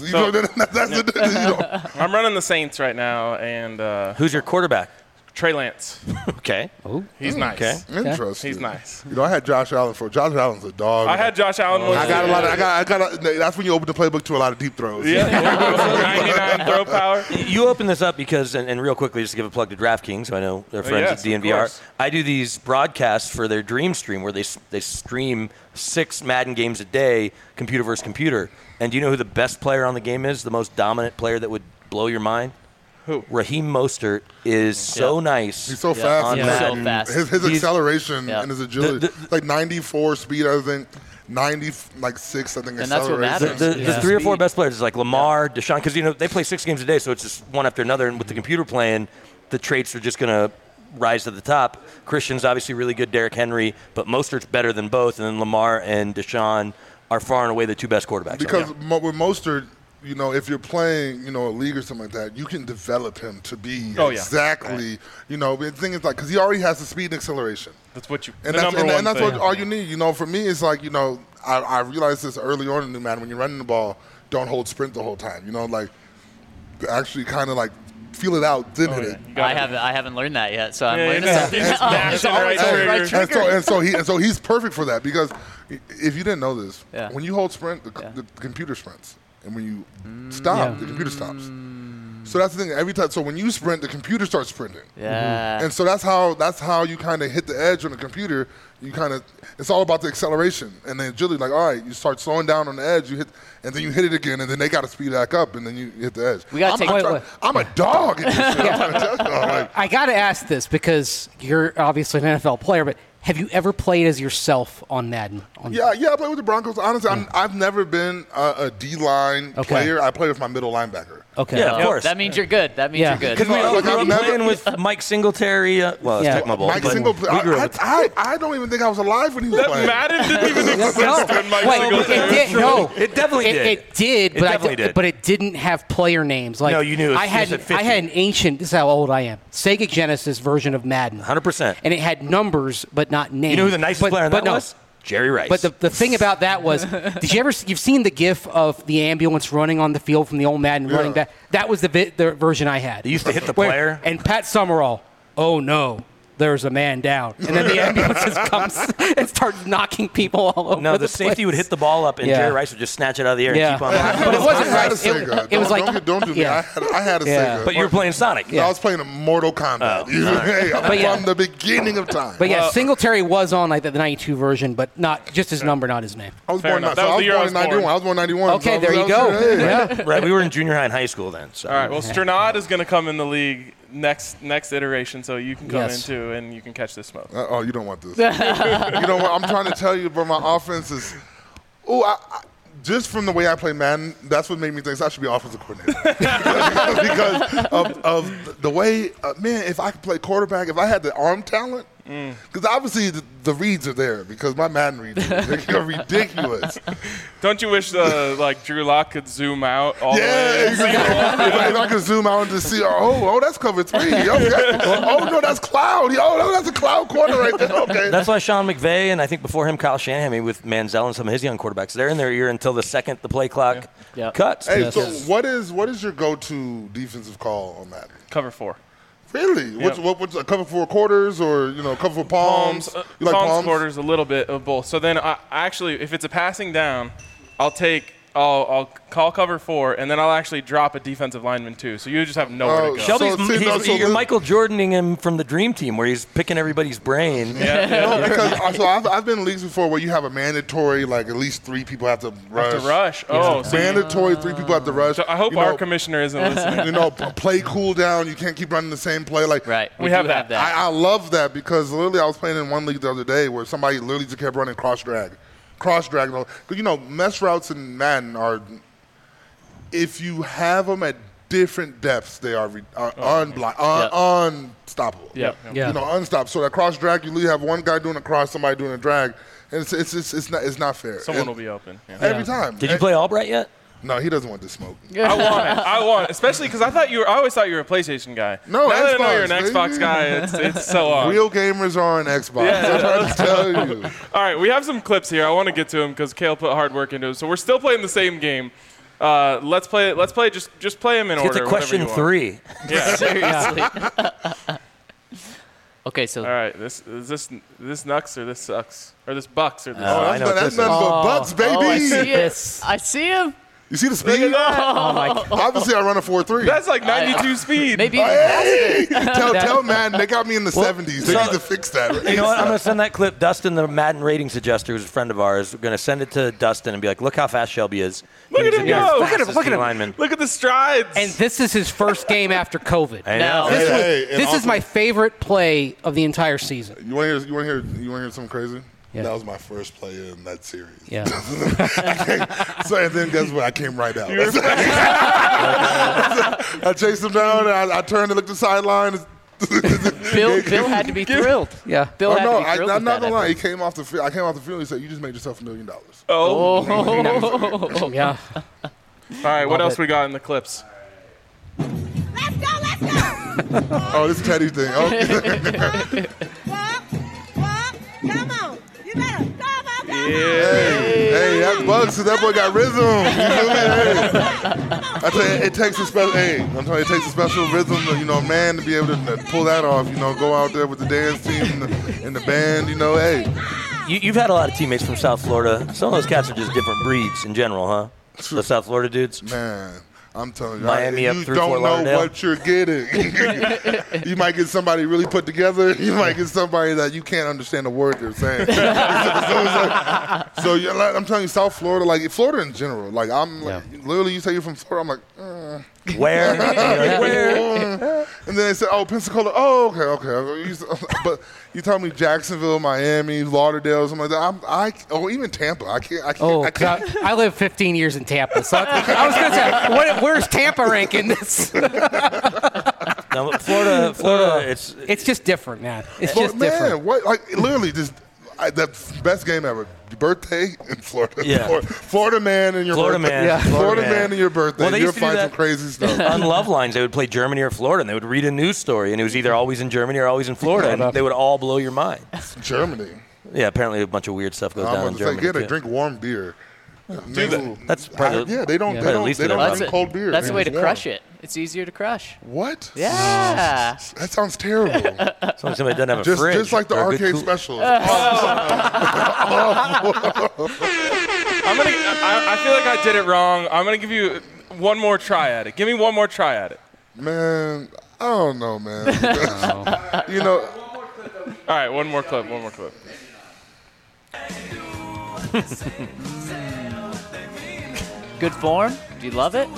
I'm running the Saints right now, and Who's your quarterback? Trey Lance. Okay. He's nice. Okay. Interesting. He's nice. I had Josh Allen for. Josh Allen's a dog. I had Josh Allen. I got a lot of. I got. That's when you open the playbook to a lot of deep throws. Yeah. 99 throw power. You open this up because, and real quickly, just to give a plug to DraftKings, so I know they're friends yes, at of DNVR. course. I do these broadcasts for their Dream Stream where they stream 6 Madden games a day, computer versus computer. And do you know who the best player on the game is? The most dominant player that would blow your mind? Who? Raheem Mostert is so nice. He's so fast. on He's Madden. so fast. His acceleration Yeah. and his agility, like 94 speed, I think. 96, I think. And that's what acceleration. matters. The 3 or 4 best players is like Lamar, Deshaun, because they play 6 games a day, so it's just one after another. And with the computer playing, the traits are just going to rise to the top. Christian's obviously really good, Derrick Henry, but Mostert's better than both. And then Lamar and Deshaun are far and away the 2 best quarterbacks. Because with Mostert, if you're playing, a league or something like that, you can develop him to be exactly, the thing is like, because he already has the speed and acceleration. That's what you. And the that's, number one and that's thing. what all you need. For me, it's like, I realized this early on in the Madden, when you're running the ball, don't hold sprint the whole time. Like, actually kind of like feel it out, then hit it. I haven't learned that yet, so I'm Yeah, learning yeah. something. He's mashing the right trigger. And so he's perfect for that, because if you didn't know this, Yeah. when you hold sprint, the computer sprints. And when you stop, the computer stops. So that's the thing. Every time, so when you sprint, the computer starts sprinting. Yeah. And so that's how you kind of hit the edge on the computer. It's all about the acceleration and the agility. Like, all right, you start slowing down on the edge, you hit, and then you hit it again, and then they got to speed back up, and then you hit the edge. We gotta I'm a dog at this shit. I'm trying to tell you. I got to ask this because you're obviously an NFL player, but Have you ever played as yourself on Madden? Yeah, I play with the Broncos. Honestly, I've never been a D-line player. I play with my middle linebacker. Okay. Yeah, of course. That means you're good. That means you're good. Because we all grew up I've playing with Mike Singletary. Well, it's Tecmo Mike Singletary. I don't even think I was alive when he was playing. Madden didn't even exist when Mike Singletary. It definitely did. It did, but it didn't have player names. Like, no, you knew. I had an ancient. This is how old I am. Sega Genesis version of Madden. 100%. And it had numbers, but not names. You know who the nicest player on that was? Jerry Rice. But the thing about that was, you've seen the GIF of the ambulance running on the field from the old Madden running back? That was the version I had. They used to hit the player. And Pat Summerall, oh no, there's a man down. And then the ambulance just comes and starts knocking people all over. No, the safety would hit the ball up, and Jerry Rice would just snatch it out of the air and keep on knocking. But it wasn't I had Rice. a Sega. It was like don't do me. I had a Sega. But you were playing Sonic. I was playing Mortal Kombat. From the beginning of time. But Singletary was on like the 92 version, but not just his number, not his name. I was born in 91. I was born in 91. Okay, there you go. Yeah. Right, we were in junior high and high school then. So. All right, well, Strnad is going to come in the league next iteration, so you can come in too, and you can catch this smoke. You don't want this. You know what? I'm trying to tell you, bro, my offense is just from the way I play Madden, that's what made me think I should be offensive coordinator. because of the way, man, if I could play quarterback, if I had the arm talent, because obviously the reads are there because my Madden reads are ridiculous. Don't you wish Drew Lock could zoom out all the way? Exactly. if I could zoom out and just see, that's cover 3. Okay. Oh, no, that's cloud. Oh, that's a cloud corner right there. Okay. That's why Sean McVay and I think before him Kyle Shanahan with Manziel and some of his young quarterbacks, they're in their ear until the second the play clock cuts. Hey, so what is your go-to defensive call on Madden? Cover 4. Really? Yep. What's a cover 4 quarters or cover 4 palms? You like palms? Quarters, a little bit of both. So then I actually, if it's a passing down, I'll call cover 4, and then I'll actually drop a defensive lineman too. So you just have nowhere to go. Shelby's you're Michael Jordaning him from the Dream Team, where he's picking everybody's brain. Because I've been in leagues before where you have a mandatory, at least 3 people have to rush. Mandatory 3 people have to rush. So I hope our commissioner isn't listening. Play cool down. You can't keep running the same play. Right. We have that. I love that because literally I was playing in one league the other day where somebody literally just kept running cross drag. Because mesh routes in Madden are, if you have them at different depths, they are unstoppable. Unstoppable. So that cross drag, you literally have one guy doing a cross, somebody doing a drag, and it's not fair. Someone will be open every time. Did you play Albright yet? No, he doesn't want to smoke. I want it, especially because I always thought you were a PlayStation guy. No, now Xbox, that I know you're an Xbox guy, it's so on. Real gamers are on Xbox. I'm trying to tell you. All right, we have some clips here. I want to get to them because Kale put hard work into it. So we're still playing the same game. Let's play. Just play them in order. Get to question 3. Yeah, seriously. Okay, so all right, is this Nux or this sucks or this Bucks or this? That's nothing but Bucks, baby. I see him. You see the speed? Oh my God. Obviously, I run a 4.3. That's like 92 speed. Maybe tell Madden they got me in the 70s. They need to fix that. You know what? I'm going to send that clip. Dustin, the Madden rating suggester, who's a friend of ours, we're going to send it to Dustin and be like, look how fast Shelby is. Look at him go. Look at him. Look at the strides. And this is his first game after COVID. I know. This is my favorite play of the entire season. You want to hear something crazy? Yeah. That was my first play in that series. Yeah. And then guess what? I came right out. I chased him down, and I turned to look at the sideline. Bill had to be thrilled. Yeah. Bill had to be thrilled. I'm not going to lie. He came off the field. I came off the field. He said, "You just made yourself $1 million." Oh. Yeah. All right. What else we got in the clips? Let's go. Oh, this Teddy thing. Okay. Walk. Come on. You better come on. Hey, that Bucks. That boy got rhythm. You feel me? Hey. I tell you, it takes a special. Hey, I'm telling you, it takes a special rhythm, man, to be able to pull that off. Go out there with the dance team and the band. Hey. You've had a lot of teammates from South Florida. Some of those cats are just different breeds in general, huh? The South Florida dudes. Man. I'm telling you, Miami up you through don't Fort know Lauderdale. what you're getting. You might get somebody really put together. You might get somebody that you can't understand a word they're saying. So I'm telling you, South Florida, Florida in general. Literally, you say you're from Florida, I'm like, Where? And then they said, oh, Pensacola. Oh, okay. But you tell me Jacksonville, Miami, Lauderdale, something like that. Or even Tampa. I can't. I lived 15 years in Tampa, so I was going to say, where's Tampa rank in this? No, Florida, it's just different, man. It's But just man, different. what? Like literally, just the best game ever. Your birthday in Florida. Yeah. Florida man and your Florida birthday. man. Yeah. Florida man and your birthday. Well, they You'll used to do find that some crazy stuff. on Love Lines. They would play Germany or Florida, and they would read a news story, and it was either always in Germany or always in Florida, and they would all blow your mind. Germany. Yeah, apparently a bunch of weird stuff goes I'm down about in to say, Germany. yeah, they too. drink warm beer. That's probably yeah. They don't. Yeah. They At don't. least They don't that's drink it. cold beer. That's the way to It's warm. crush it. It's easier to crush. What? Yeah. That sounds terrible. as long as somebody doesn't have a just fridge. just like the or a good arcade cool- specials. I feel like I did it wrong. I'm gonna give you one more try at it. Give me one more try at it. Man, I don't know, man. You know, All right, one more clip. Good form. Do you love it?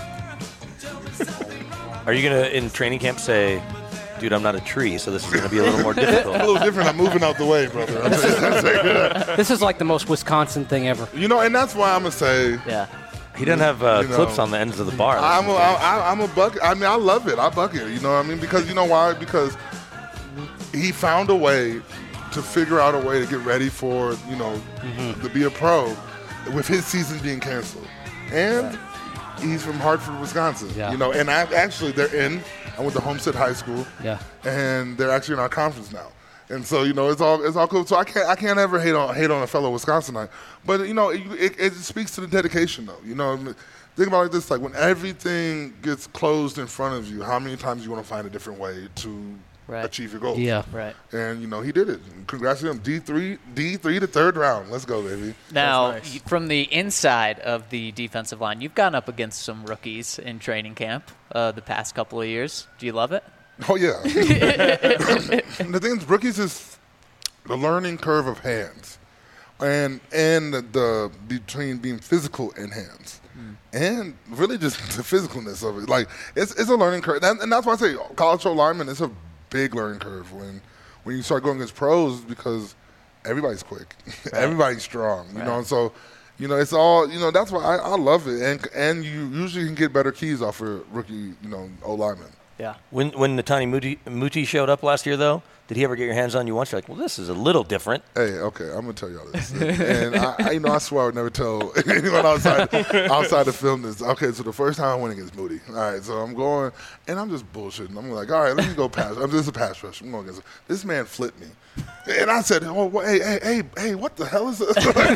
Are you going to, in training camp, say, dude, I'm not a tree, so this is going to be a little more difficult? a little different. I'm moving out the way, brother. This is like the most Wisconsin thing ever. You know, and that's why I'm gonna say Yeah. He doesn't have You know, clips on the ends of the bar. I'm a bucket. I mean, I love it. I bucket. You know what I mean? Because you know why? Because he found a way to figure out a way to get ready for to be a pro with his season being canceled, and he's from Hartford, Wisconsin. Yeah. You know, and I went to Homestead High School. Yeah. And they're actually in our conference now. And so, you know, it's all cool. So I can't ever hate on a fellow Wisconsinite. But, you know, it speaks to the dedication, though. You know, think about it like this. Like, when everything gets closed in front of you, how many times you want to find a different way to achieve your goals? Yeah. Right. And, you know, he did it. Congrats to him. D3 to third round. Let's go, baby. Now, That's nice. from the inside of the defensive line, you've gone up against some rookies in training camp the past couple of years. Do you love it? Oh, yeah. The thing is, rookies is the learning curve of hands and the between being physical and hands. And really just the physicalness of it. Like, it's a learning curve. And that's why I say college lineman is a big learning curve when you start going against pros because everybody's quick. Everybody's strong, you know. And so, you know, it's all, you know, that's why I love it. And you usually can get better keys off a rookie, you know, O-lineman. Yeah. When Netani Muti showed up last year, though, did he ever get your hands on you once? You're like, well, this is a little different. Hey, okay, I'm gonna tell y'all this, and I swear I would never tell anyone outside to film this. Okay, so the first time I went against Moody. All right, so I'm going, and I'm just bullshitting. I'm like, all right, let me go pass. I'm just a pass rush. I'm going against this man. Flipped me, and I said, oh, hey, what the hell is this?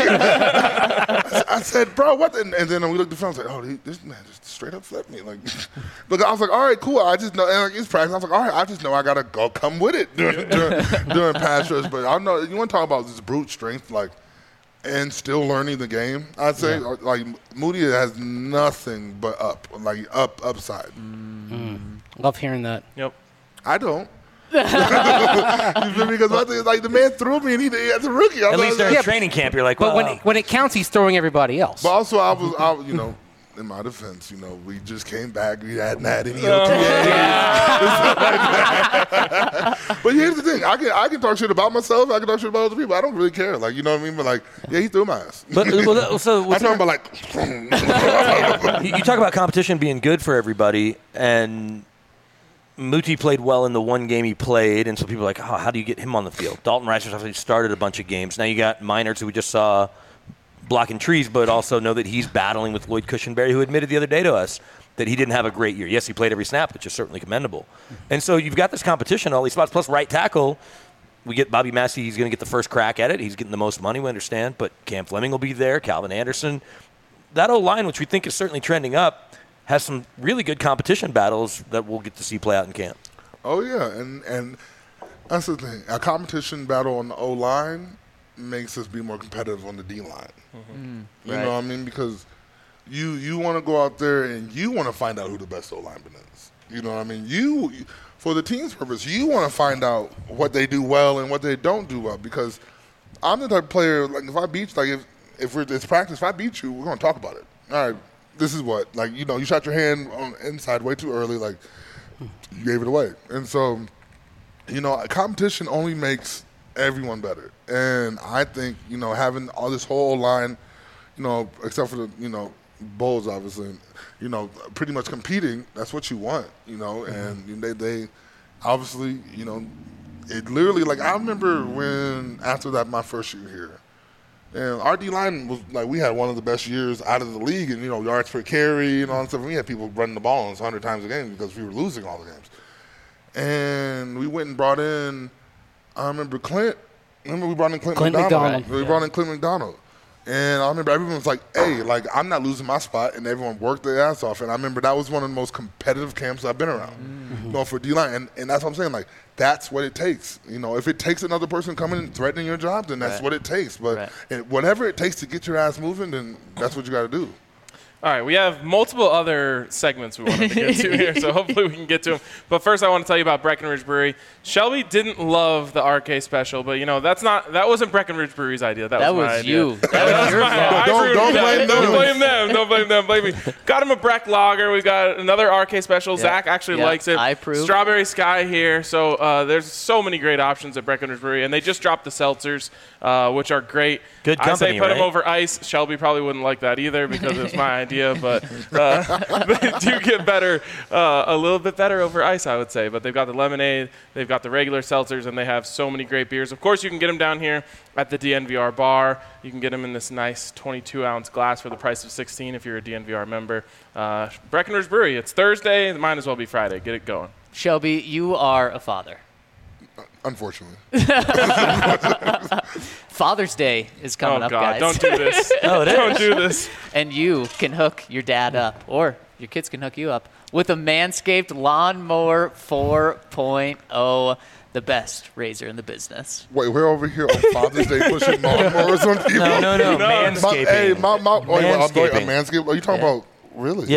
I said, bro, what? And then we looked at the film. I was like, oh, this man just straight up flipped me. Like, but I was like, all right, cool. I just know, and like, it's practice. I was like, all right, I just know I gotta go come with it during pass rush. But I know you want to talk about this brute strength, like, and still learning the game. I'd say like Moody has nothing but upside. Love hearing that. Yep. I don't. You feel me? Because my thing is, like, the man threw me, and he as a rookie. At least during training camp, you're like, But well, when it counts, he's throwing everybody else. But also, I was, you know, in my defense, you know, we just came back. We hadn't had any OTAs. But here's the thing: I can talk shit about myself. I can talk shit about other people. I don't really care. Like, you know what I mean? But like, yeah, he threw my ass. but so I'm talking about like. you talk about competition being good for everybody, and Muti played well in the one game he played, and so people are like, oh, how do you get him on the field? Dalton Rice obviously started a bunch of games. Now you got Meinerz, who we just saw blocking trees, but also know that he's battling with Lloyd Cushenberry, who admitted the other day to us that he didn't have a great year. Yes, he played every snap, which is certainly commendable. And so you've got this competition, all these spots, plus right tackle. We get Bobby Massey, he's going to get the first crack at it. He's getting the most money, we understand, but Cam Fleming will be there, Calvin Anderson. That O-line, which we think is certainly trending up, has some really good competition battles that we'll get to see play out in camp. Oh yeah, and that's the thing. A competition battle on the O-line makes us be more competitive on the D-line. You know what I mean? Because you want to go out there and you want to find out who the best O-lineman is. You know what I mean? You for the team's purpose, you want to find out what they do well and what they don't do well. Because I'm the type of player, like, if I beat, like, if it's practice, if I beat you, we're going to talk about it. All right, this is what, like, you know, you shot your hand on inside way too early, like, you gave it away. And so, you know, competition only makes everyone better. And I think, you know, having all this whole line, you know, except for the, you know, Bulls, obviously, you know, pretty much competing, that's what you want, you know, and they obviously, you know, it literally, like, I remember when, after that, my first year here, and our D-line was, like, we had one of the best years out of the league, and, you know, yards per carry and all that stuff. And we had people running the ball 100 times a game because we were losing all the games. And we went and brought in, I remember we brought in Clint McDonald. We brought in Clint McDonald. And I remember everyone was like, hey, like, I'm not losing my spot. And everyone worked their ass off. And I remember that was one of the most competitive camps I've been around, you know, for D-line. And that's what I'm saying. Like, that's what it takes. You know, if it takes another person coming and threatening your job, then that's what it takes. But whatever it takes to get your ass moving, then that's what you got to do. All right, we have multiple other segments we wanted to get to here, so hopefully we can get to them. But first, I want to tell you about Breckenridge Brewery. Shelby didn't love the RK special, but, you know, that wasn't Breckenridge Brewery's idea. That was my you. idea. That was your fault. Don't blame them. Don't blame them. Don't blame them. Blame me. Got him a Breck Lager. We got another RK special. Zach actually likes it. I approve. Strawberry Sky here. So there's so many great options at Breckenridge Brewery, and they just dropped the seltzers, which are great. Good company, I say put them right? over ice. Shelby probably wouldn't like that either because it's my idea, but they do get better, a little bit better over ice, I would say. But they've got the lemonade, they've got the regular seltzers, and they have so many great beers. Of course, you can get them down here at the DNVR bar. You can get them in this nice 22-ounce glass for the price of $16 if you're a DNVR member. Breckenridge Brewery, it's Thursday. It might as well be Friday. Get it going. Shelby, you are a father. Unfortunately. Father's Day is coming up, God, guys. don't do this. Don't do this. And you can hook your dad up, or your kids can hook you up, with a Manscaped Lawnmower 4.0, the best razor in the business. Wait, we're over here on Father's Day pushing lawnmowers on people? No. Manscaping. Hey, Manscaping. Manscaping. Are you talking about, really?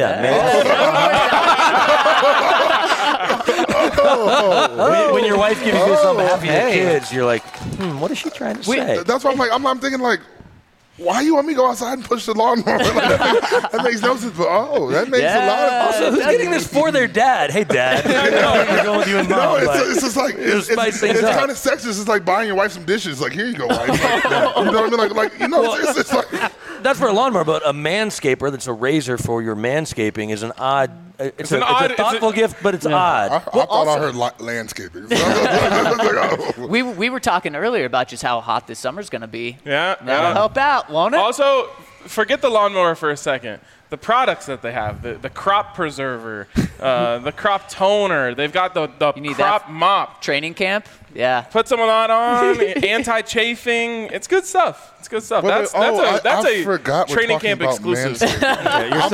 When your wife gives you this on behalf of your kids, you're like, what is she trying to say? That's why I'm thinking, like, why you want me to go outside and push the lawnmower? Like, that makes no sense. But, that makes a lot of sense. Also, who's getting this for their dad? Hey, Dad. You're going with you and Mom. No, it's just like, it's kind of sexist. It's like buying your wife some dishes. Like, here you go, wife. Like, you know what I mean? Like, you know, it's like. That's for a lawnmower, but a manscaper that's a razor for your manscaping is an odd. It's a thoughtful gift, but it's odd. I thought I heard landscaping. We were talking earlier about just how hot this summer's going to be. That'll help out, won't it? Also, forget the lawnmower for a second. The products that they have, the crop preserver, the crop toner, they've got the crop mop. Training camp? Yeah. Put some of that on, anti-chafing. It's good stuff. It's good stuff. Well, That's a forgot training camp exclusive. I'm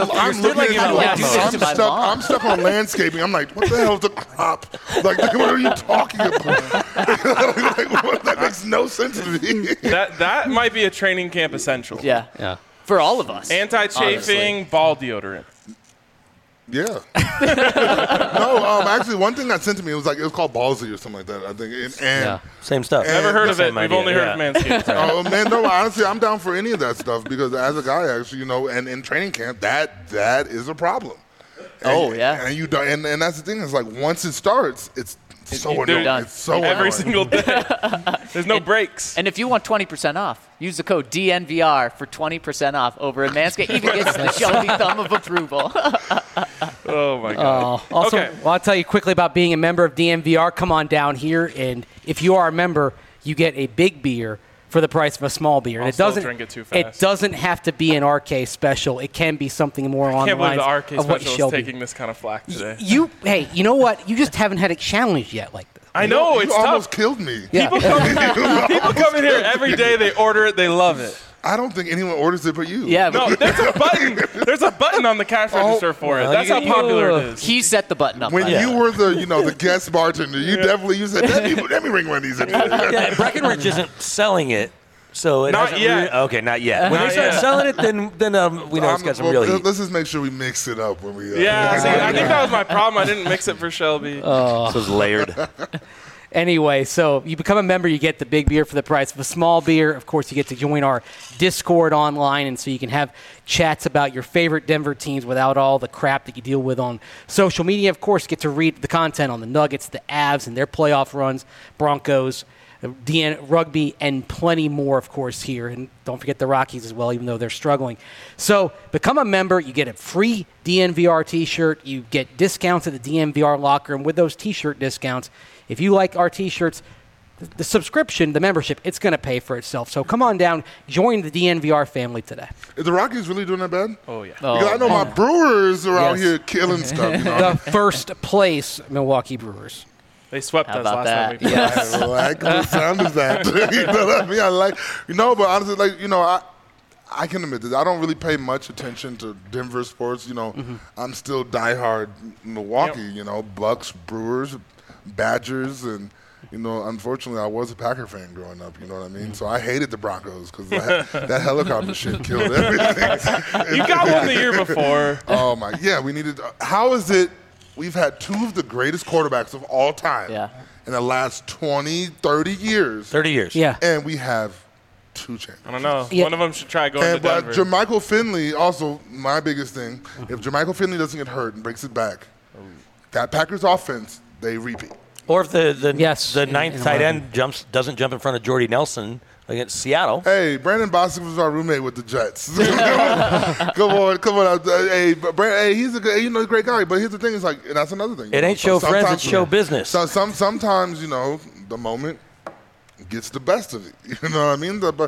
stuck on landscaping. I'm like, what the hell is the crop? Like, what are you talking about? That makes no sense to me. That might be a training camp essential. Yeah. For all of us. Anti-chafing ball deodorant. Yeah. No, actually, one thing that sent to me, it was called Ballsy or something like that, I think. And same stuff. Never heard of it. We've only heard of Manscaped. Oh, man, no, honestly, I'm down for any of that stuff because as a guy, actually, you know, and in training camp, that is a problem. And that's the thing. It's like once it starts, it's so annoying. It's so every annoying. single day. There's no breaks. And if you want 20% off, use the code DNVR for 20% off over at Manscaped. Even gets the Shelby thumb of approval. Oh, my God. Also, okay. well, I'll tell you quickly about being a member of DNVR. Come on down here, and if you are a member, you get a big beer for the price of a small beer. And Don't drink it too fast. It doesn't have to be an RK special. It can be something more on the lines of what of what special is taking this kind of flack today. Hey, you know what? You just haven't had it challenged yet like this. I know, it's tough. almost killed me. Yeah. People come in here every day. They order it. They love it. I don't think anyone orders it but you. Yeah. No, there's a button. There's a button on the cash register for it. That's how popular it is. He set the button up. When you were the guest bartender, you said, let me ring one of these. Breckenridge isn't selling it. So not yet. Okay, not yet. When they start selling it, then we know it's got some real heat. Let's just make sure we mix it up when we. Yeah, see, I think that was my problem. I didn't mix it for Shelby. So it's layered. Anyway, so you become a member, you get the big beer for the price of a small beer. Of course, you get to join our Discord online, and so you can have chats about your favorite Denver teams without all the crap that you deal with on social media. Of course, get to read the content on the Nuggets, the Avs, and their playoff runs, Broncos, rugby, and plenty more, of course, here. And don't forget the Rockies as well, even though they're struggling. So become a member. You get a free DNVR T-shirt. You get discounts at the DNVR locker. And with those T-shirt discounts, if you like our T-shirts, the subscription, the membership, it's going to pay for itself. So come on down. Join the DNVR family today. Is the Rockies really doing that bad? Oh, yeah. Because I know my Brewers are out here killing stuff. You know? The first place Milwaukee Brewers. They swept How us about last that? time. Yes. I like the sound of that. You know what I mean? I like, but honestly, like, I can admit this. I don't really pay much attention to Denver sports. I'm still diehard Milwaukee, Bucks, Brewers, Badgers, and, unfortunately, I was a Packer fan growing up, you know what I mean? So I hated the Broncos because that helicopter shit killed everything. You got one the year before. Oh, my. Yeah, we needed – how is it we've had two of the greatest quarterbacks of all time in the last 20, 30 years. 30 years. Yeah. And we have two champions. I don't know. Yeah. One of them should try going to But Denver. Jermichael Finley, also my biggest thing, if Jermichael Finley doesn't get hurt and breaks it back, that Packers offense, they repeat. Or if the Yes, ninth in tight 11. end doesn't jump in front of Jordy Nelson against Seattle. Hey, Brandon Bostic was our roommate with the Jets. Come on. Hey, he's a good, a great guy. But here's the thing: is like, and that's another thing. It ain't show friends; sometimes- it's show business. So sometimes the moment gets the best of it. You know what I mean? But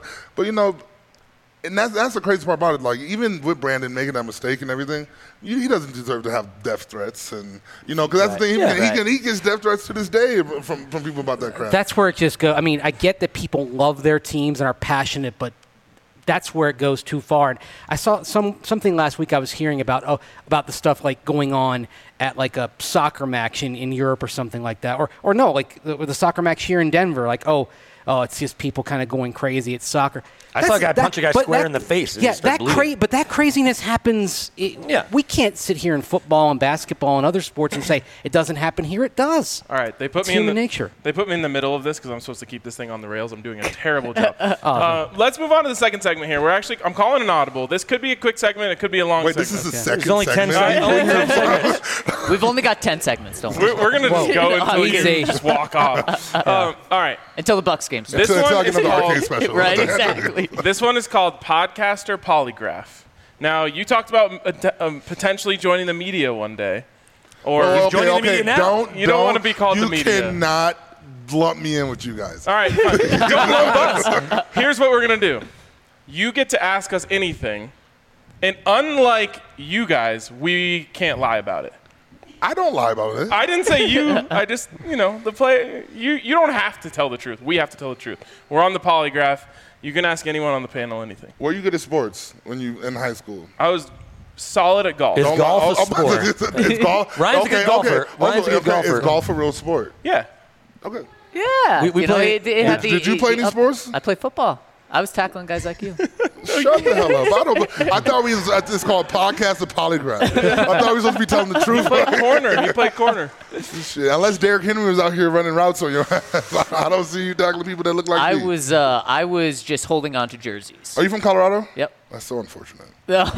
and that's the crazy part about it. Like, even with Brandon making that mistake and everything, he doesn't deserve to have death threats. And because that's the thing. He gets death threats to this day from people about that crap. That's where it just goes. I mean, I get that people love their teams and are passionate, but that's where it goes too far. And I saw something last week I was hearing about the stuff like going on at like a soccer match in Europe or something like that. Or no, like the soccer match here in Denver, like, it's just people kind of going crazy at soccer. I saw a guy punch a guy square in the face. And Yeah, he started bleeding. but that craziness happens. We can't sit here in football and basketball and other sports and say it doesn't happen here. It does. All right, they put It's me in human nature. They put me in the middle of this because I'm supposed to keep this thing on the rails. I'm doing a terrible job. Let's move on to the second segment here. I'm calling an audible. This could be a quick segment. It could be a long Wait, segment. this is the second There's only 10 segment? seconds. Only 10 seconds. We've only got 10 segments, don't we? We're going to just go until we Easy. can just walk off. All right. Until the Bucks game starts. This Until I one get is another arcade called, special. Right, exactly. this one is called Podcaster Polygraph. Now, you talked about potentially joining the media one day. Or joining the media now. You don't want to be called the media. You cannot lump me in with you guys. All right, fine. Don't lump us. Here's what we're going to do. You get to ask us anything, and unlike you guys, we can't lie about it. I don't lie about it. I didn't say you. I just, the play. You don't have to tell the truth. We have to tell the truth. We're on the polygraph. You can ask anyone on the panel anything. Were you good at sports when you in high school? I was solid at golf. Is golf a sport? Is golf? Ryan's a good golfer. Ryan's a good golfer. Is golf a real sport? Yeah. Okay. Yeah. We play- Did you play any sports? I played football. I was tackling guys like you. Shut the hell up. I thought it's called podcast of polygraph. I thought we were supposed to be telling the truth. You played corner. Shit, unless Derrick Henry was out here running routes on your ass. I don't see you tackling people that look like me. I was just holding on to jerseys. Are you from Colorado? Yep. That's so unfortunate.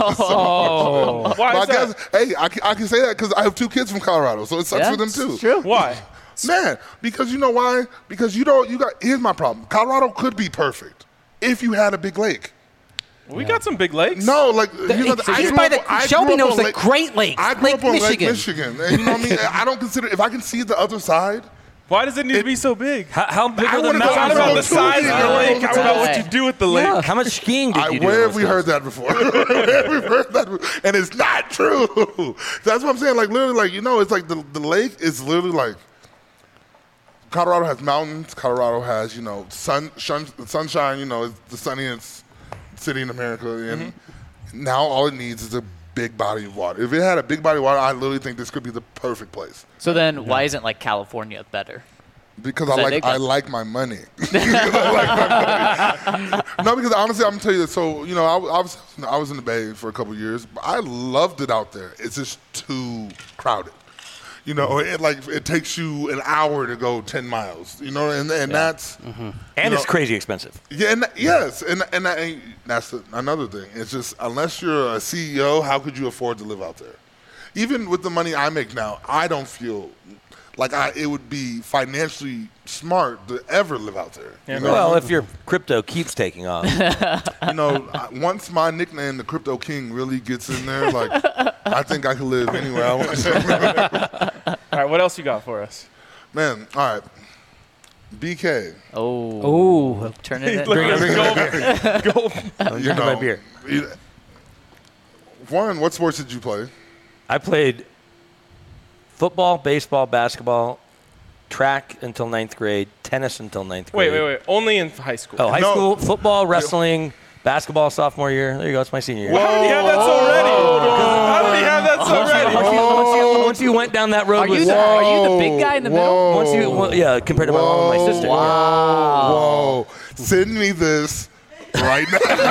Oh. Why is that? Hey, I can say that because I have two kids from Colorado, so it sucks Yeah, for them too. it's true. Why? Man, because you know why? Because here's my problem. Colorado could be perfect if you had a big lake. We got some big lakes. No, like Shelby knows the Great Lakes. I grew Lake up on Lake Michigan. Michigan, and you know what I mean. I don't consider if I can see the other side. Why does it need to be so big? How big I are the wanna go It's not to mountains? about the size of the lake. It's about what Right. you do with the lake. How much skiing did you do? Where in have we those heard that before? Where have we heard that? And it's not true. That's what I'm saying. Like literally, like it's like the lake is literally like. Colorado has mountains. Colorado has sunshine. It's the sunniest city in America, and now all it needs is a big body of water. If it had a big body of water, I literally think this could be the perfect place. So then, why isn't like California better? Because Is that I big? like my money. No, because honestly, I'm gonna tell you this. So I was in the Bay for a couple of years. But I loved it out there. It's just too crowded. You know, it takes you an hour to go 10 miles. You know, and that's And it's crazy expensive. yeah, and yes, and that's another thing. It's just unless you're a CEO, how could you afford to live out there? Even with the money I make now, I don't feel like it would be financially smart to ever live out there. You know? Well, if your crypto keeps taking off. You know, once my nickname, the Crypto King, really gets in there, like I think I could live anywhere I want. All right, what else you got for us? Man, all right. BK. Oh, Turn it in. Look at this gold. I'm drinking my beer. Warren, what sports did you play? I played football, baseball, basketball, track until 9th grade, tennis until 9th grade. Wait. Only in high school. Oh, high No. school, football, wrestling, basketball, sophomore year. There you go. It's my senior year. How did he have that so ready? How did he have that so ready? Once you went down that road Are you with the big guy in the middle? once you compared to my mom and my sister. Whoa. Send me this right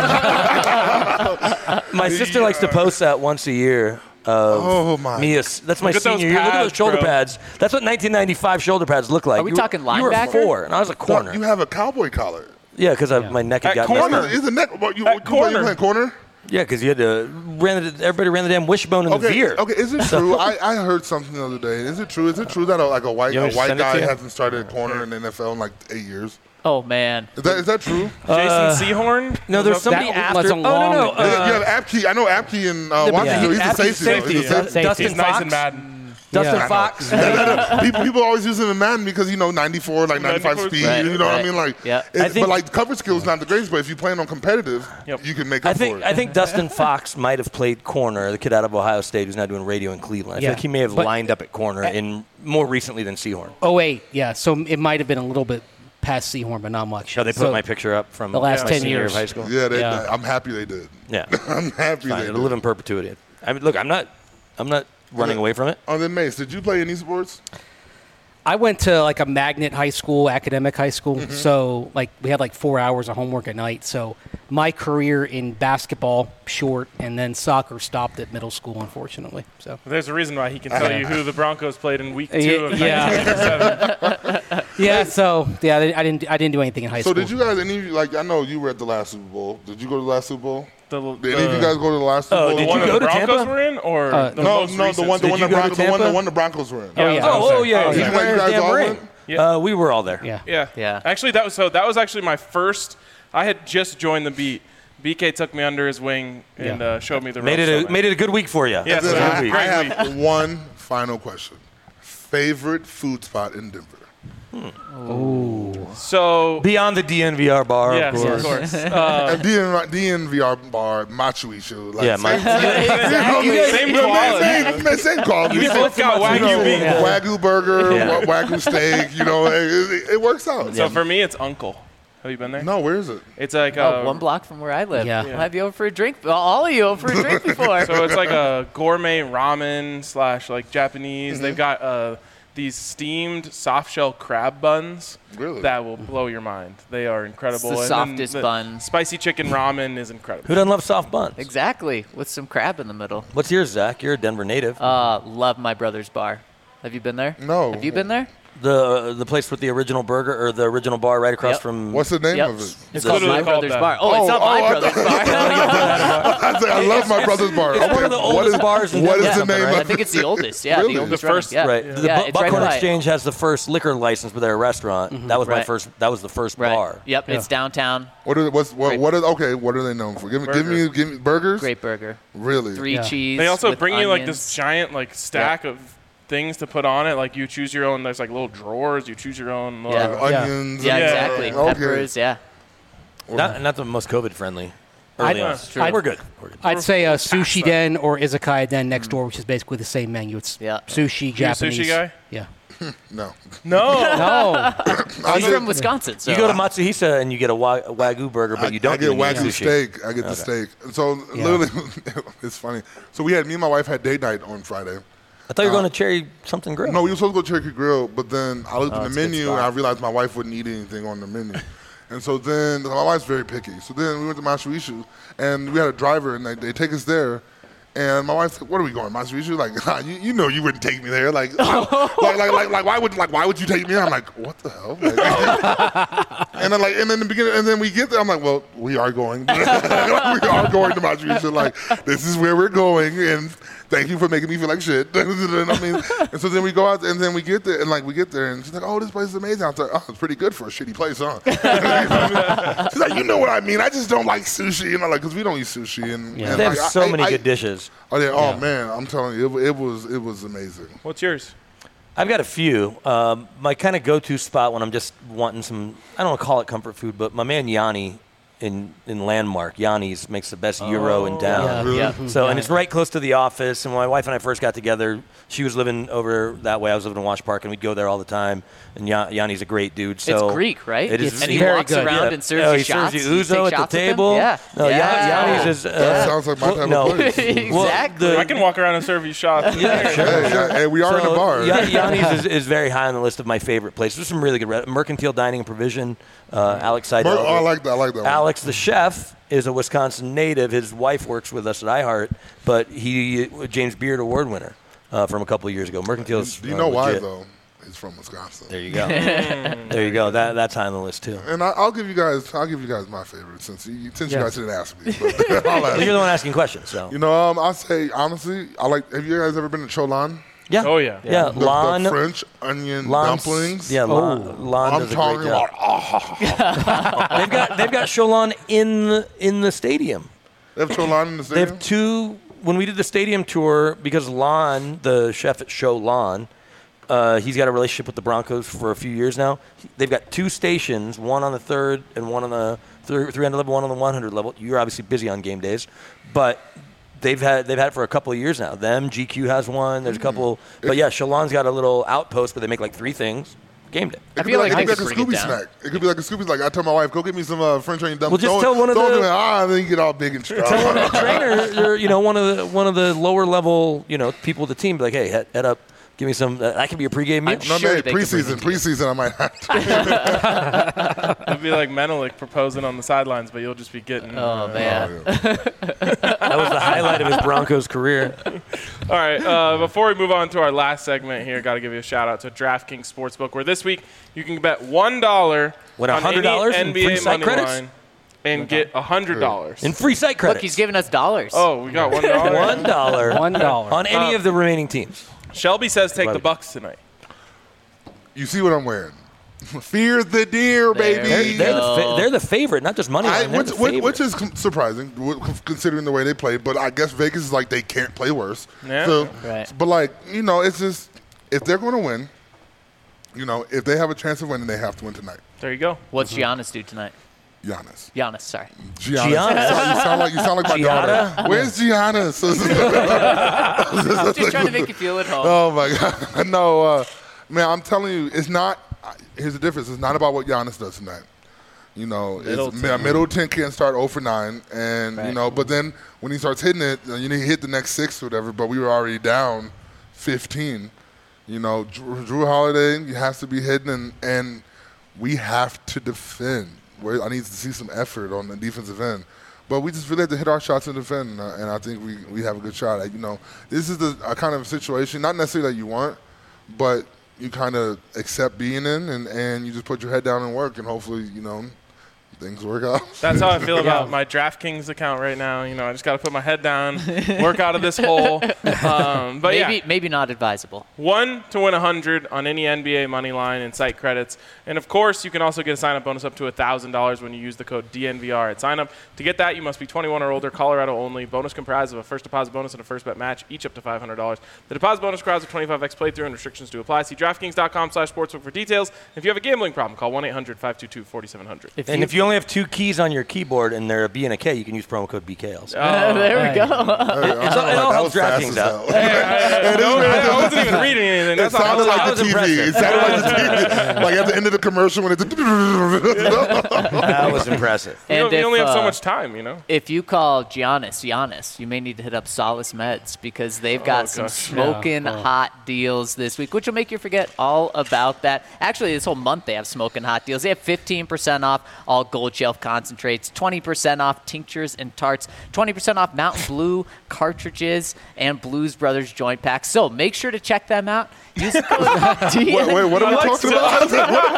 now. My sister likes to post that once a year. Oh, my. That's my Look at those senior year. Look at pads, those shoulder bro. pads. That's what 1995 shoulder pads look like. Are we talking You linebacker? were 4, and I was a corner. You have a cowboy collar. Yeah, because my neck had At gotten messed corner. up. Is the neck? You corner. playing corner? Yeah, because you had to everybody ran the damn wishbone in the veer. Okay. Is it true? I heard something the other day. Is it true? Is it true that a white You want me to guy send it to you? hasn't started at corner in the NFL in like 8 years? Oh, man. Is that true? Jason Seahorn? No, there's Was that- somebody That after. was a long- no. you have Apke. I know Apke in Washington. He's a safety. though. Safety. He's a safety. Dustin He's nice Fox. and Madden. Dustin Yeah. Fox. People always use him in Madden because 94, like 95 94 speed. Right, You know what I right. mean? Like, Yeah. I think- but like coverage skills not the greatest. But if you playing on competitive, Yep. you can make I up for think it. Dustin Fox might have played corner, the kid out of Ohio State who's now doing radio in Cleveland. I feel Yeah. like he may have But- lined up at corner in more recently than Seahorn. 08, yeah. So it might have been a little bit past Seahorn, but not much. So they put So my picture up from the last my 10 senior year years. of high school. Yeah, Yeah. I'm happy they did. Yeah, I'm happy fine. they It'll did. live in perpetuity. I mean, look, I'm not running away from it. Oh, then Mace, did you play any sports? I went to like a magnet high school, academic high school. Mm-hmm. So like we had like 4 hours of homework at night. So my career in basketball short, and then soccer stopped at middle school, unfortunately. So There's a reason why he can tell you who the Broncos played in week 2 of Yeah. 1987. yeah, I didn't do anything in high So school. did you guys, any of you, like, I know you were at the last Super Bowl. Did you go to the last Super Bowl? The Did any of you guys go to the last Super Bowl? did one you that go the to Broncos Tampa? were in, or the No, most the recent? one Did you go to Tampa? the one the Broncos were in. Oh, yeah. Oh, yeah. Did He's you wearing his guys damn all ring. went? Yeah. We were all there. Yeah. Yeah. Actually, that was actually my first. I had just joined the beat. BK took me under his wing and showed me the Made ropes. it a good week for you. Yes, Then it was I, a I great week. have one final question. Favorite food spot in Denver? So Beyond the DNVR bar, yes, of course. And DNVR bar, Machu Picchu. Like, Yeah, same quality. Same quality. You both got Wagyu beef. Wagyu burger, Yeah. Wagyu steak. It works out. So for me, it's Uncle. Have you been there? No, where is it? It's like One block from where I live. Yeah. We'll have you over for a drink. All of you over for a drink before. So it's like a gourmet ramen / like Japanese. They've got these steamed soft shell crab buns Really? that will blow your mind. They are incredible. It's the And then softest the bun. Spicy chicken ramen is incredible. Who doesn't love soft buns? Exactly. With some crab in the middle. What's yours, Zach? You're a Denver native. Love my brother's bar. Have you been there? No. Have you been there? The place with the original burger or the original bar right across Yep. from. What's the name Yep. of it? It's The- called literally My called Brother's that. Bar. Oh, it's not I My Brother's Bar. I say I love my brother's bar. It's one of the oldest bars in What is Denver, the name right? I of think it? it's the oldest. Yeah, Really? the oldest. The first- running. Right. Yeah, The yeah, it's right Buckhorn by it. Exchange has the first liquor license for their restaurant. That was my Right. first. That was the first Right. bar. Yep, it's downtown. What are they known for? Give me burgers. Great burger. Really? 3 cheese. They also with bring you like onions. this giant like stack of things to put on it. Like you choose your own. There's like little drawers. You choose your own. Yeah. Like, Onions. Yeah, and- exactly. Okay. Peppers. Yeah. Not the most COVID friendly. Early on. True. We're good. We're good. I'd say a sushi den or izakaya den next door, which is basically the same menu. It's Yeah. sushi, You a Japanese. sushi guy? Yeah. No. No. No. He's from Wisconsin, so You go to Matsuhisa and you get a Wagyu burger, but you don't I get get Wagyu sushi. steak. I get the steak. And so literally, it's funny. So me and my wife had date night on Friday. I thought you were going to Cherry something grill. No, we were supposed to go to Cherokee Grill, but then I looked at the it's a good menu and spot. I realized my wife wouldn't eat anything on the menu. And so then, my wife's very picky. So then we went to Machu Picchu and we had a driver and they take us there And my wife's like, "What are we going, Machu Picchu?" Like, nah, you know, you wouldn't take me there. Like, why would you take me there? I'm like, what the hell? Like, and then in the beginning, and then we get there. I'm like, well, we are going. We are going to Machu Picchu. Like, this is where we're going, and thank you for making me feel like shit. I mean, and so then we go out, and then we get there, and she's like, "Oh, this place is amazing." I was like, "Oh, it's pretty good for a shitty place, huh?" She's like, "You know what I mean? I just don't like sushi, like, because we don't eat sushi." And they have so many good dishes. Oh man, I'm telling you, it was amazing. What's yours? I've got a few. My kind of go-to spot when I'm just wanting some, I don't want to call it comfort food, but my man Yanni in Landmark, Yanni's makes the best gyro in town. Yeah. So, and it's right close to the office. And when my wife and I first got together, she was living over that way. I was living in Wash Park, and we'd go there all the time. And Yanni's a great dude. So it's Greek, right? It is. And he very walks good. around and serves you shots. He serves you ouzo at the table. Yeah. No, Yanni's is. That sounds like my type of place. Exactly. I can walk around and serve you shots. Yeah, sure. Hey, we are in a bar. Yanni's is very high on the list of my favorite places. There's some really good Mercantile Dining and Provision. Alex Seidel. I like that one. Alex, the chef, is a Wisconsin native. His wife works with us at iHeart, but he James Beard Award winner from a couple of years ago. Mercantile's Do you know why legit. though? He's from Wisconsin. There you go. There you go. That's high on the list too. And I'll give you guys my favorite since you guys didn't ask me. But Well, you're the one asking questions, so. I'll say honestly, have you guys ever been to Cholan? Yeah. Oh, yeah. Yeah. The French onion dumplings. Yeah, Lon I'm does a talking great job. about. They've got Cholan in the stadium. They have Cholan in the They stadium. have two. When we did the stadium tour, because Lon, the chef at Cholan, he's got a relationship with the Broncos for a few years now. They've got two stations, one on the 3rd and one on the 300 level, one on the 100 level. You're obviously busy on game days, but they've had it for a couple of years now. GQ has one. There's a couple, but yeah, Cholan's got a little outpost where they make like 3 things. Game day. It could feel be like like they a could bring it Scooby down. snack. It could be like a Scooby snack. I tell my wife, go get me some French onion dumplings. Well, just tell one of the- and then you get all big and strong. Trainer, one of the lower level, people with the team, be like, hey, head up, give me some. That could be a pregame meal. I'm sure they could bring it. Preseason, I might have to. It'd be like Menelik proposing on the sidelines, but you'll just be getting. Oh, man. That was the highlight of his Broncos career. All right, before we move on to our last segment here, got to give you a shout out to DraftKings Sportsbook, where this week you can bet $1 What, on $100 any in free NBA site money credits? line and get $100. In free site credits. Look, he's giving us dollars. Oh, we got $1. $1. $1 On any of the remaining teams. Shelby says take the Bucks tonight. You see what I'm wearing? Fear the deer, There baby. you They're the favorite, not just money line. They're the favorite. Which is surprising, considering the way they play. But I guess Vegas is like they can't play worse. Yeah. So, Right. But it's just if they're going to win, if they have a chance of winning, they have to win tonight. There you go. What's Giannis do tonight? Giannis. Giannis, sorry. Giannis. You sound like my Gianna? daughter. Where's Giannis? I'm just trying to make you feel at home. Oh my God. No, man, I'm telling you, it's not. Here's the difference. It's not about what Giannis does tonight. Middleton can't start 0 for 9, and Right. but then when he starts hitting it, he hit the next 6 or whatever. But we were already down 15. Drew Holiday has to be hitting, and we have to defend. I need to see some effort on the defensive end. But we just really have to hit our shots and defend, and I think we have a good shot. This is a kind of situation, not necessarily that you want, but you kind of accept being in, and you just put your head down and work, and hopefully, things work out. That's how I feel about my DraftKings account right now. I just got to put my head down, work out of this hole. But Maybe not advisable. 1 to win 100 on any NBA money line and site credits. And, of course, you can also get a sign-up bonus up to $1,000 when you use the code DNVR at sign-up. To get that, you must be 21 or older, Colorado only. Bonus comprised of a first deposit bonus and a first bet match, each up to $500. The deposit bonus requires a 25x playthrough and restrictions do apply. See DraftKings.com/sportsbook for details. If you have a gambling problem, call 1-800-522-4700. And if you only have 2 keys on your keyboard and they're a B and a K, you can use promo code BKLs. There we go. It all helps DraftKings out. I wasn't even reading anything. It That's all. sounded like that the was TV. impressive. It sounded like the TV. Like at the end of the commercial when it's. That was impressive. We And only have so if, much time, If you call Giannis, you may need to hit up Solace Meds because they've got some gosh. smoking hot deals this week, which will make you forget all about that. Actually, this whole month they have smoking hot deals. They have 15% off all Gold Shelf concentrates, 20% off tinctures and tarts, 20% off Mountain Blue cartridges, and Blues Brothers joint packs. So make sure to check them out. Use the code Wait, what are we talking about?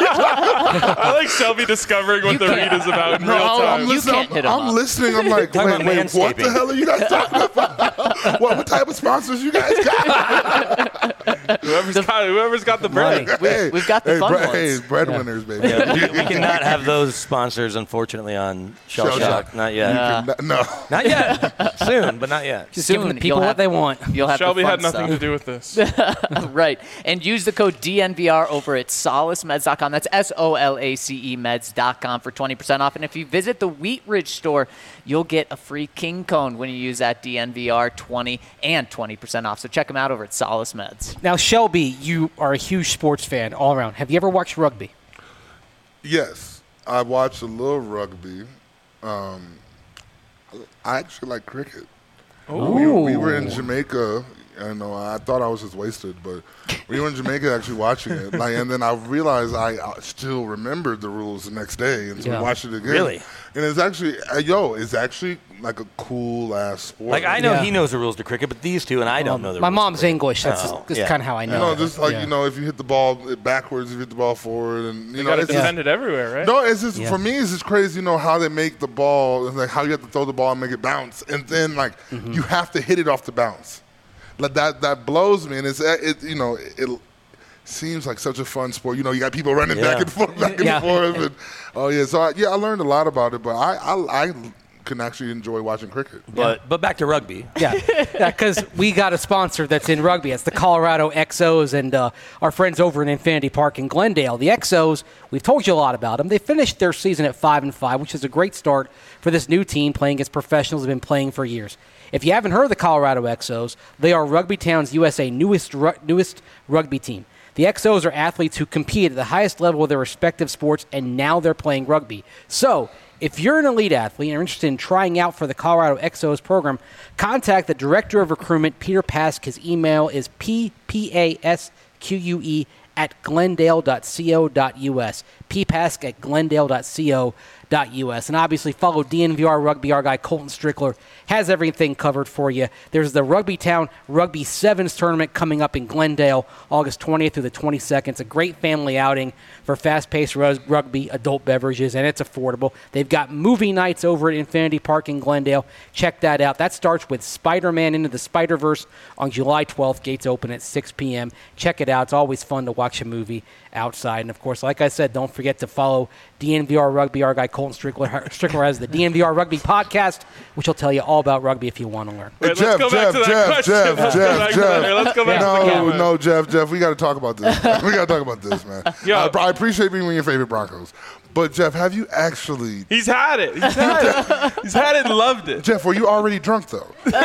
I like Shelby discovering what the read is about in real time. I'm You listening. can't hit 'em I'm up. listening. I'm like, Talking wait, about what the manscaping. hell are you guys talking about? What type of sponsors you guys got? Whoever's got the bread. We've got the fun ones. Hey, breadwinners, baby. We cannot have those sponsors, unfortunately, on Shell Shell Shock. Shock. Not yet. No. Not yet. Soon, but not yet. Just Soon giving the people you'll what have- they want. You'll have Shelby the fun had nothing stuff. to do with this. Right. And use the code DNVR over at solacemeds.com. That's SOLACE meds.com for 20% off. And if you visit the Wheat Ridge store, you'll get a free King Cone when you use that DNVR 20 and 20% off. So check them out over at Solace Meds. Now, Shelby, you are a huge sports fan all around. Have you ever watched rugby? Yes, I watched a little rugby. I actually like cricket. We were in Jamaica. I know I thought I was just wasted, but we were in Jamaica actually watching it. And then I realized I still remembered the rules the next day, and so Yeah. we watched it again. Really? And it's actually, it's actually like a cool ass sport. Like, I know Yeah. he knows the rules to cricket, but these two, and I don't know the My rules. mom's English. That's Oh, just yeah. kind of how I know. You know, just like Yeah. if you hit the ball backwards, if you hit the ball forward, and You got to it's just- defend it everywhere, right? No, it's just Yeah. for me. It's just crazy, how they make the ball, and like how you have to throw the ball and make it bounce, and then you have to hit it off the bounce. Like that blows me, and it seems like such a fun sport. You got people running Yeah. back and forth, Yeah. And, so I learned a lot about it, but I can actually enjoy watching cricket. But back to rugby. Yeah, because we got a sponsor that's in rugby. It's the Colorado XOs and our friends over in Infinity Park in Glendale. The XOs, we've told you a lot about them. They finished their season at 5-5, which is a great start for this new team playing against professionals who have been playing for years. If you haven't heard of the Colorado XOs, they are Rugby Town's USA newest rugby team. The XOs are athletes who compete at the highest level of their respective sports, and now they're playing rugby. So, if you're an elite athlete and are interested in trying out for the Colorado XOs program, contact the Director of Recruitment, Peter Pask. His email is ppasque@glendale.co.us. ppask@glendale.co.us. And obviously follow DNVR Rugby. Our guy Colton Strickler has everything covered for you. There's the Rugby Town Rugby Sevens tournament coming up in Glendale, August 20th through the 22nd. It's a great family outing for fast-paced rugby, adult beverages, and it's affordable. They've got movie nights over at Infinity Park in Glendale. Check that out. That starts with Spider-Man Into the Spider-Verse on July 12th. Gates open at 6 p.m. Check it out. It's always fun to watch a movie outside. And, of course, like I said, don't forget to follow DNVR Rugby. Our guy Colton Strickler has the DNVR Rugby podcast, which will tell you all about rugby if you want to learn. Wait, let's go back to that question. Let's go back to that. Let's go back to the comment. No, Jeff, we got to talk about this. We got to talk about this, man. Yo. I appreciate being one of your favorite Broncos, but Jeff, have you actually? He's had it. He's had it and loved it. Jeff, were you already drunk though?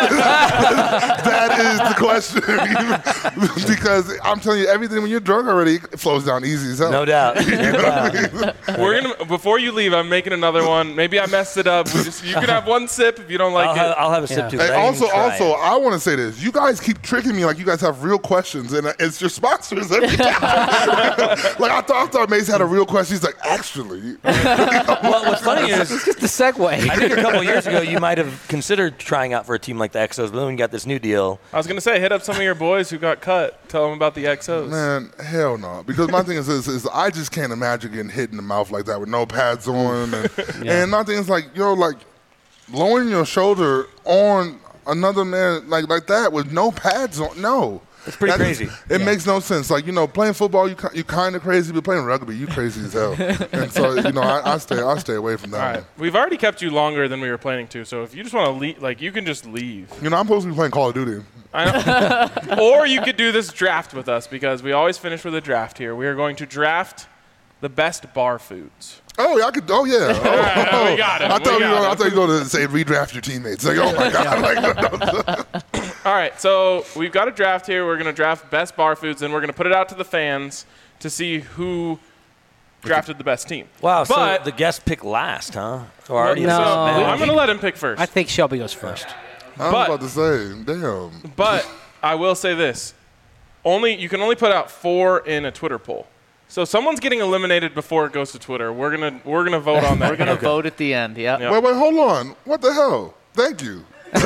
That is the question. Because I'm telling you, everything when you're drunk already it flows down easy as hell. No doubt. We're gonna before you leave. I'm making another one. Maybe I messed it up. You can have one sip if you don't like it. I'll have a sip Yeah. too. Hey, but I didn't also, try it. I want to say this. You guys keep tricking me like you guys have real questions, and it's your sponsors every time. Like I thought Mace had a real question. He's like, actually, Well, what's funny is Just the segue. I think a couple years ago you might have considered trying out for a team like the XOs, but then when you got this new deal, I was gonna say, hit up some of your boys who got cut. Tell them about the XOs. man, hell no. Because my thing is I just can't imagine getting hit in the mouth like that with no pads on, and my thing is like lowering your shoulder on another man like that with no pads on. No. it's pretty crazy. It makes no sense. Like, playing football, you kind of crazy, but playing rugby, you crazy as hell. And so, I stay away from that. All right, we've already kept you longer than we were planning to. So if you just want to leave, you can just leave. I'm supposed to be playing Call of Duty. I know. Or you could do this draft with us because we always finish with a draft here. We are going to draft the best bar foods. Oh, yeah, I could. Oh, yeah. Oh, we got him. I thought We you got were going to say redraft your teammates. Like, oh my god. All right, so we've got a draft here. We're going to draft best bar foods, and we're going to put it out to the fans to see who drafted the best team. Wow, so But- the guest picked last, huh? So already No. this is bad. I'm going to let him pick first. I think Shelby goes first. I was But- about to say, damn. But I will say this: you can only put out 4 in a Twitter poll. So someone's getting eliminated before it goes to Twitter. We're gonna vote on that. We're going to vote at the end. Yeah. Yeah. Wait, hold on. What the hell? Thank you.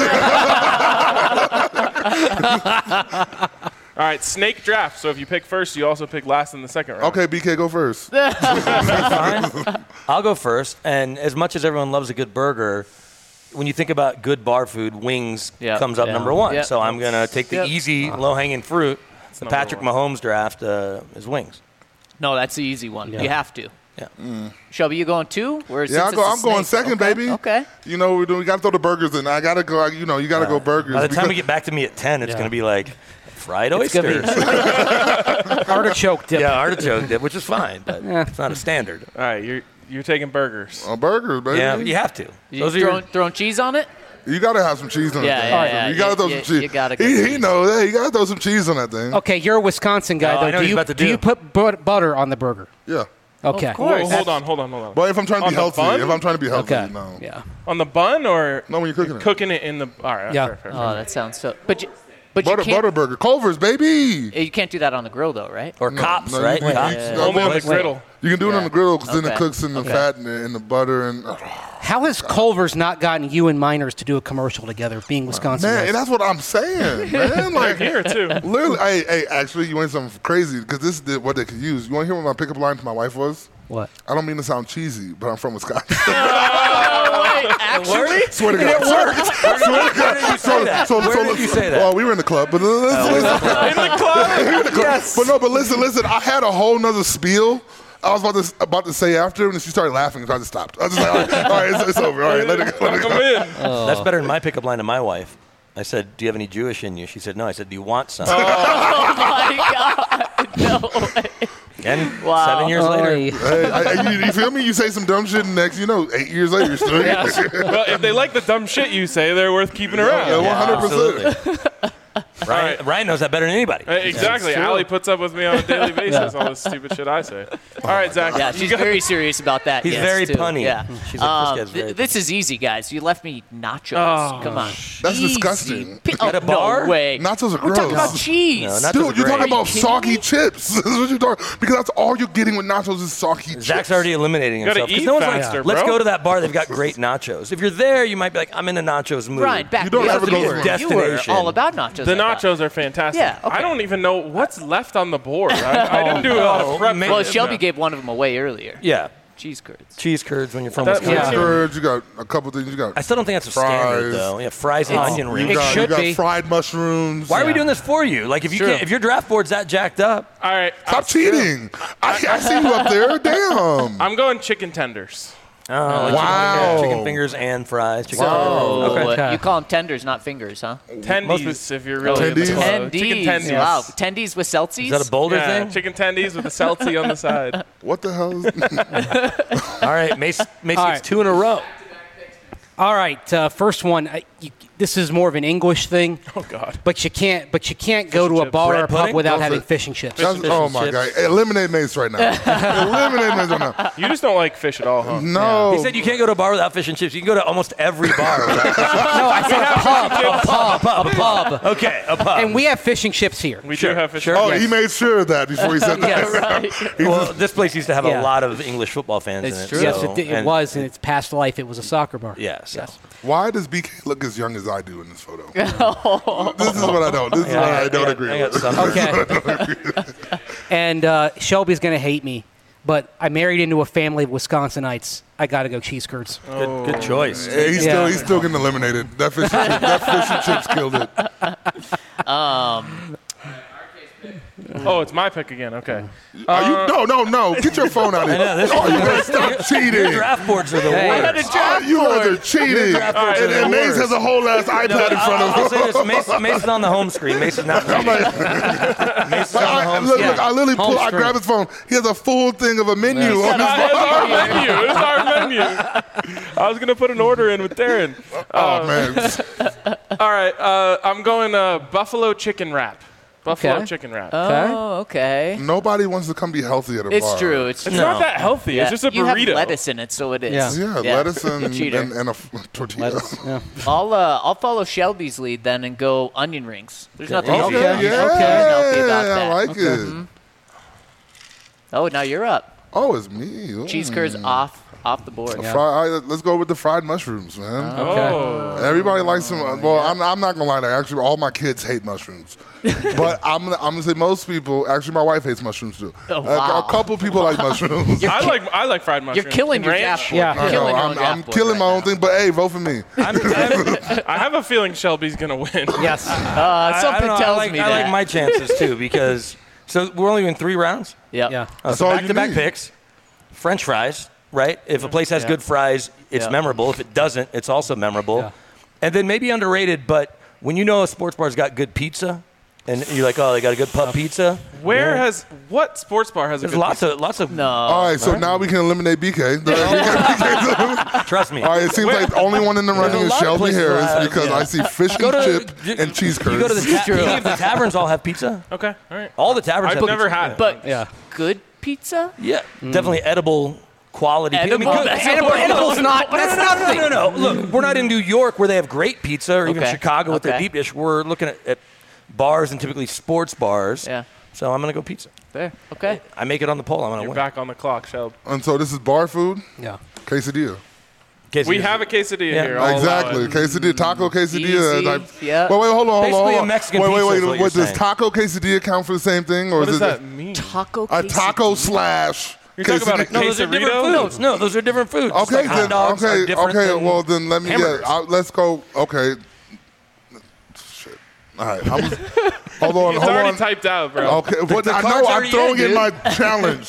All right, snake draft. So if you pick first, you also pick last in the second round. Okay, BK, go first. Fine. I'll go first. And as much as everyone loves a good burger, when you think about good bar food, wings Yep. comes up Yeah. number one. Yep. So I'm going to take the Yep. easy, low-hanging fruit. The number Patrick one. Mahomes draft is wings. No, that's the easy one. Yeah. You have to. Yeah. Shelby, you going 2? Or Yeah, since it's a I'm going snake? second, Okay. baby. Okay. You know, we got to throw the burgers in. I got to go, you got to go burgers. By the time because- we get back to me at 10, it's Yeah. going to be like fried It's gonna oysters. be artichoke dip. Yeah, artichoke dip, which is fine, but it's not a standard. All right, you're taking burgers. burgers, baby. Yeah, but you have to. You Those are your, throwing cheese on it? You got to have some cheese on Yeah, that thing. yeah, yeah. You got to throw You- some cheese. you gotta get he cheese. knows that. You got to throw some cheese on that thing. Okay, you're a Wisconsin guy, Oh, I know though. what Do he's you, about to do you do. put butter on the burger? Yeah. Okay. Of course. Whoa, hold on. But if I'm trying to On be the healthy, bun? if I'm trying to be healthy, Okay. no. Yeah. On the bun or No, when you're cooking it. cooking it in the. All right. Yeah. Fair. Oh, that sounds so. But you Butter can't. burger. Culver's, baby. You can't do that on the grill, though, right? or cops, no, right? you- Cops. you- Only on the Wait. griddle. You can do it on the griddle because then it Okay. cooks in the fat and the butter. And How has Culver's not gotten you and Miners to do a commercial together, being Wisconsin? man, guys? and that's what I'm saying, man. Like, Here too. literally, hey, actually, you want something crazy because this is what they could use. You want to hear what my pickup line to my wife was? What? I don't mean to sound cheesy, but I'm from Wisconsin. Actually? Swear to God. Where did you say that? Where did you say that? Well, we were in the club, but listen. In the club. Yes. But listen. I had a whole nother spiel. I was about to say after, and then she started laughing, so I just stopped. I was just like, all right, it's over. All right, let it go. Come in. That's better than my pickup line to my wife. I said, "Do you have any Jewish in you?" She said, "No." I said, "Do you want some?" Oh my God! No way. And Wow. 7 years later, Hey, you feel me? You say some dumb shit, and next, 8 years later, you're still here. Well, if they like the dumb shit you say, they're worth keeping around. Yeah, 100%. absolutely. Ryan knows that better than anybody. Exactly. Allie puts up with me on a daily basis, all this stupid shit I say. All right, Zach. Yeah, you she's got- very serious about that. He's yes, very too. punny. Yeah. She's like, this guy's very This is easy, guys. You left me nachos. Oh, Come on. That's Easy. disgusting. At a bar? No way. Nachos are We're talking gross. about cheese. No, nachos Dude, are you're great. talking about kidding soggy me? chips. This is what you're talking because that's all you're getting with nachos is soggy chips. Zach's already eliminating gotta himself. 'Cause eat no one's faster, like, let's bro. go to that bar. They've got great nachos. If you're there, you might be like, I'm in a nachos mood. Brian, back You don't me up. ever go You to were- a You were destination. all about nachos. The I thought. nachos are fantastic. Yeah, okay. I don't even know what's left on the board. I didn't do a lot of prep. man. Well, for Shelby this. gave one of them away earlier. Yeah. Cheese curds. Cheese curds when you're from That- Wisconsin. yeah. Curds, you got a couple things. You got I still don't think that's a standard, Fries. though. Yeah, fries and onion you rings. got, should be. fried mushrooms. Why are we doing this for you? Like, if you True. can't, if your draft board's that jacked up, All right. Stop cheating. I see you up there. Damn. I'm going chicken tenders. Wow. chicken fingers and fries. Chicken Oh, Okay. you call them tenders, not fingers, huh? Tendies, if you're really into Tendies? clothes. Chicken Tendies. tendies. Wow. Tendies with Celsius? Is that a Boulder Yeah, thing? chicken tendies with a seltzy on the side. What the hell is All right, Mace All gets right. 2 in a row. All right, first one. This is more of an English thing, Oh God. but you can't go to a chips. bar or Bread a pub pudding? without Don't having say- fish and chips. That's, Fish oh and my chips. God. Eliminate Mace right now. Eliminate Mace right now. You just don't like fish at all, huh? No. He said you can't go to a bar without fish and chips. You can go to almost every bar without fish and chips. No, I said a pub. Okay, a pub. And we have fish and chips here. We Sure, do have fish. sure. Oh, Yes. he made sure of that before he said that. well, this place used to have Yeah. a lot of English football fans in It's it. true. Yes, so- it and- was. In its past life, it was a soccer bar. Yeah, so. Why does BK look as young as I do in this photo? This is what I don't. This is what I don't agree I got with. some. Okay. And Shelby's going to hate me, but I married into a family of Wisconsinites. I got to go cheese curds. Good choice. Yeah, he's Yeah. still getting eliminated. That fish and chips killed it. Oh, it's my pick again. Okay. Are you? No. Get your phone out of here. know, this- Oh, you guys stop cheating. Your draft boards are the worst. Oh, you guys are cheating. draft boards are the And Mace worst. has a whole ass iPad in front I'll of say him. this: Mace is on the home screen. Mace is not. Mace is on the home Look, screen. I literally Home I screen. grab his phone. He has a full thing of a menu on his It's phone. our menu. It's our menu. I was gonna put an order in with Darren. Oh man. All right. I'm going buffalo chicken wrap. Buffalo Okay. chicken wrap. Oh, okay. Nobody wants to come be healthy at a bar. It's true. It's It's true. not that healthy. Yeah. It's just a You have burrito. lettuce in it, so it is. Yeah. Yeah, lettuce and Cheater. a tortilla. Yeah. I'll follow Shelby's lead then and go onion rings. There's nothing Okay, easy. yeah, Nothing healthy about I that. like it. Oh, now you're up. Oh, it's me. Ooh. Cheese curds off the board. Let's go with the fried mushrooms, man. Oh. Everybody likes them. Well, I'm not gonna lie to you. Actually, all my kids hate mushrooms, but I'm gonna say most people. Actually, my wife hates mushrooms too. Oh, wow. A couple people like mushrooms. I like fried mushrooms. You're killing And your ranch. draft board. Yeah. You're I killing know, your own draft I'm board killing right my own now. thing, but hey, vote for me. I have a feeling Shelby's gonna win. Yes. I Something don't know, tells I like, me I that. like my chances too because so we're only in 3 rounds. Yep. Yeah. That's So all you back-to-back need. picks, French fries, right? If a place has good fries, it's Yeah. memorable. If it doesn't, it's also memorable. Yeah. And then maybe underrated, but when you know a sports bar's got good pizza, and you're like, oh, they got a good pub pizza. What sports bar has a There's good lots of. No. All right, so now we can eliminate BK. Trust me. All right, it seems like the only one in the running a is lot of Shelby places Harris that have, because yeah. I see fish Go and to- chip and cheese curds. You go to any of the taverns all have pizza. Okay, all right. All the taverns I've have never pizza. had it. But Yeah. good pizza? Yeah, definitely edible quality. Edible? I mean, That's Edible's not. That's nothing. No. Look, we're not in New York where they have great pizza, or even Okay. Chicago with their Okay. deep dish. We're looking at bars and typically sports bars. Yeah. So I'm gonna go pizza. Fair. Okay. I make it on the poll. I'm gonna You're win. back on the clock, Shelby. And so this is bar food, Yeah. quesadilla. We have a quesadilla Yeah. here. I'll allow Exactly, it. quesadilla, taco quesadilla. Easy. Like, Yeah. Wait, hold on. Basically a Mexican pizza is what you're Wait, does saying. taco quesadilla count for the same thing, or What is does it that mean? Taco a taco quesadilla. slash? You're talking about a quesadilla? No, those are different Quesarito? foods. No, those are different foods. Just Okay, like hot then. dogs are Okay, different okay. than Well, then let me hamburgers. let's go. Okay. Shit. All right. hold on. It's Hold already on. typed out, bro. Okay, but the I card's know I'm already throwing in, in dude. my challenge.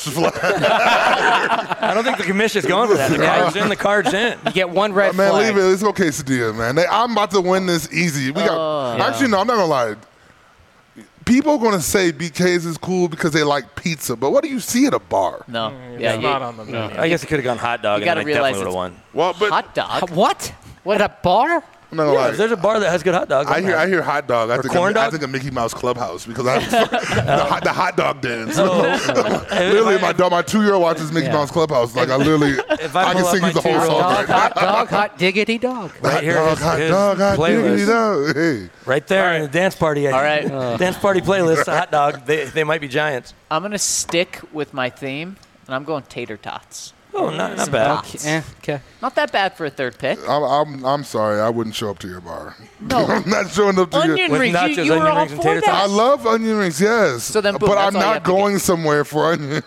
I don't think the commission's going for that. The card's in. The card's in. You get one red Man, flag. leave it. It's okay, quesadilla, man. I'm about to win this easy. We got. Actually, no, I'm not gonna lie. People are gonna say BK's is cool because they like pizza, but what do you see at a bar? No. It's Yeah. not on the menu. I guess it could have gone hot dog, You and gotta then I realize definitely would have it's- won. Well, but Hot dog. What? At a bar? I'm not gonna lie. There's a bar that has good hot dogs. I on there. hear hot dog. I think corn I dog? think a Mickey Mouse Clubhouse because I the hot dog dance. Oh. Literally, my 2-year-old watches Mickey Yeah. Mouse Clubhouse. Like I literally, If I I can pull up sing my you the whole 2-year-old song. Dog, Right, hot dog, hot diggity dog. Right here, hot his dog, hot playlist. diggity dog. Hey, Right there in the dance party. All right. Dance party playlist, a hot dog. They might be giants. I'm going to stick with my theme, and I'm going tater tots. Oh, not bad. Okay. Not that bad for a third pick. I'm sorry. I wouldn't show up to your bar. No. I'm not showing up to your. Onion With rings. nachos, You were onion all rings, and for tater that. I love onion rings, yes. So then, boom, but that's I'm all you not have to going somewhere for onion.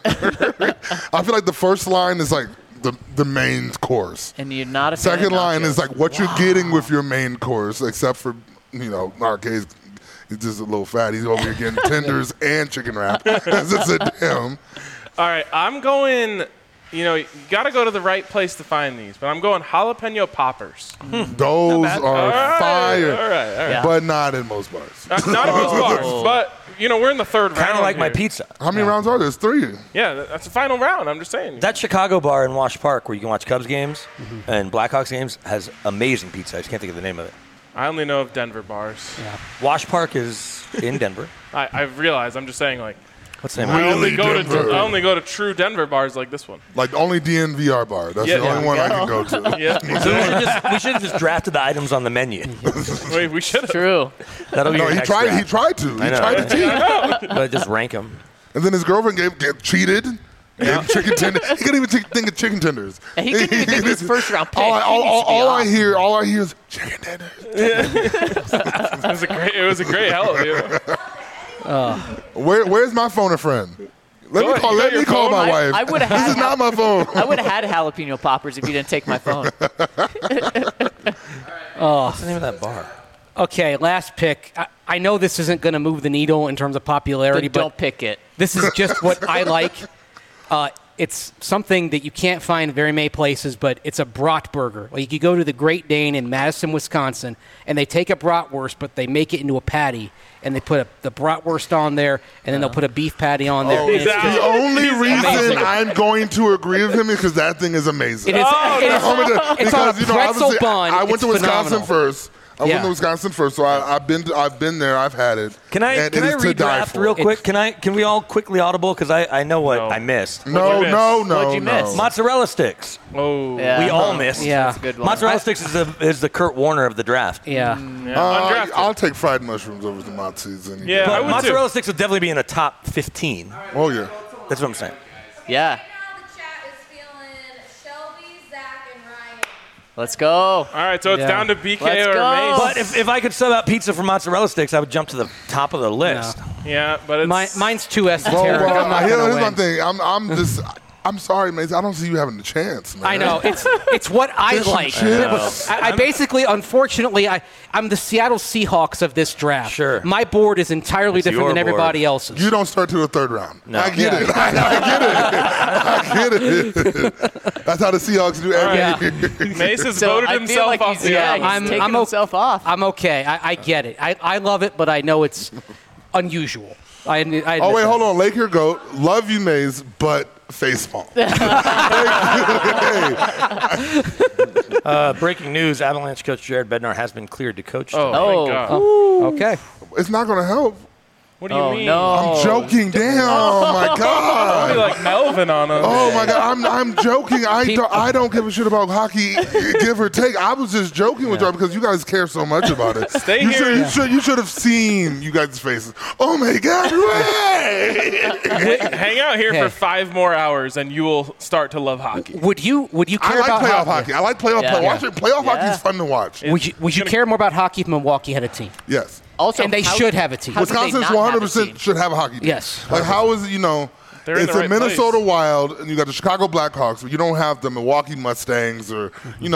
I feel like the first line is like the main course. And you're not a fan of Second line nachos. is like what you're getting with your main course, except for, in our case, he's just a little fat. He's over here getting tenders and chicken wrap. That's just a damn. All right, I'm going. You got to go to the right place to find these, but I'm going jalapeno poppers. Those are fire. All right. Yeah. But not in most bars. Not at most bars, but we're in the third round. Kind of like my here. pizza. How many rounds are there? There's 3. Yeah, that's the final round. I'm just saying. That Chicago bar in Wash Park where you can watch Cubs games and Blackhawks games has amazing pizza. I just can't think of the name of it. I only know of Denver bars. Wash Park is in Denver. I realize. I'm just saying, like, What's the name of it? Really I only go to true Denver bars like this one. Like only DNVR bar. That's Yeah, the only yeah. one I can go to. Yeah, We should have just drafted the items on the menu. we should have. True. That'll be No, your he next tried. draft. He tried to. He I know, tried right? to cheat. But just rank them. And then his girlfriend get cheated. Gave him chicken tenders. He couldn't even think of chicken tenders. And he couldn't even think of his first round pick. All He needs to be off. I hear is chicken tenders. It was a great help. Where's my phone a friend? Let Go me call. ahead. You Let got me your call phone? my wife. I would've This had is not my phone. I would have had jalapeno poppers if you didn't take my phone. What's the name of that bar? Okay, last pick. I know this isn't going to move the needle in terms of popularity, But don't but pick it. this is just what I like. It's something that you can't find very many places, but it's a bratwurst. Like you go to the Great Dane in Madison, Wisconsin, and they take a bratwurst, but they make it into a patty, and they put the bratwurst on there, and then they'll put a beef patty on there. Oh, and it's that- just- The only reason amazing. I'm going to agree with him is because that thing is amazing. it is, it's on a Because, pretzel obviously, bun. I went It's to Wisconsin phenomenal. first. I went Yeah. to Wisconsin first, so I've been there. I've had it. Can I and it is to die redraft for. real quick? Can we all quickly audible? Because I know what No. I missed. No, What'd you no, miss? no, What'd you no. miss? Mozzarella sticks. Oh. Yeah. We all missed. Yeah. That's a good one. Mozzarella sticks is the Kurt Warner of the draft. Yeah. Undrafted. I'll take fried mushrooms over the mozzis. Yeah, I But would mozzarella too. sticks would definitely be in the top 15. Oh yeah. That's what I'm saying. Yeah. Right now, the chat is feeling Shelby, Zach, and Ryan. Let's go. All right, so it's Yeah. down to BK Let's or go. Mace. But if I could sub out pizza for mozzarella sticks, I would jump to the top of the list. Yeah, but it's Mine's too esoteric. Well, I'm not here's gonna my win. thing. I'm sorry, Mace. I don't see you having a chance, man. I know it's what I Fish and like. chips. I basically, unfortunately, I'm the Seattle Seahawks of this draft. Sure. My board is entirely It's different your than everybody board. else's. You don't start to the third round. No. I get it. I get it. That's how the Seahawks do every Yeah. year. Mace has So voted I feel himself like off he's, the yeah, island. he's taking himself off. I'm okay. I get it. I love it, but I know it's unusual. I admit Oh, wait, that. hold on. Lake here, goat. Love you, Maze, but face palm. Breaking news: Avalanche coach Jared Bednar has been cleared to coach. Oh, today. Oh. thank God. Okay. It's not going to help. What do you Oh, mean? no. I'm joking. Damn. Oh, my Be God. like Melvin on him. Oh my God! I'm joking. I don't give a shit about hockey, give or take. I was just joking with y'all because you guys care so much about it. Stay you here. You should have seen you guys' faces. Oh my God! Way! Hang out here Hey. for 5 more hours, and you will start to love hockey. Would you I care like about playoff hockey. I like playoff. Yeah. Watching playoff hockey Yeah. is fun to watch. Would you care more about hockey if Milwaukee had a team? Yes. Also, And they how- should have a team. how did they Wisconsin's not have a 100% team? should have a hockey team. Yes. Like, how is it, They're in it's the the right Minnesota place. Wild, and you got the Chicago Blackhawks, but you don't have the Milwaukee Mustangs or, ooh.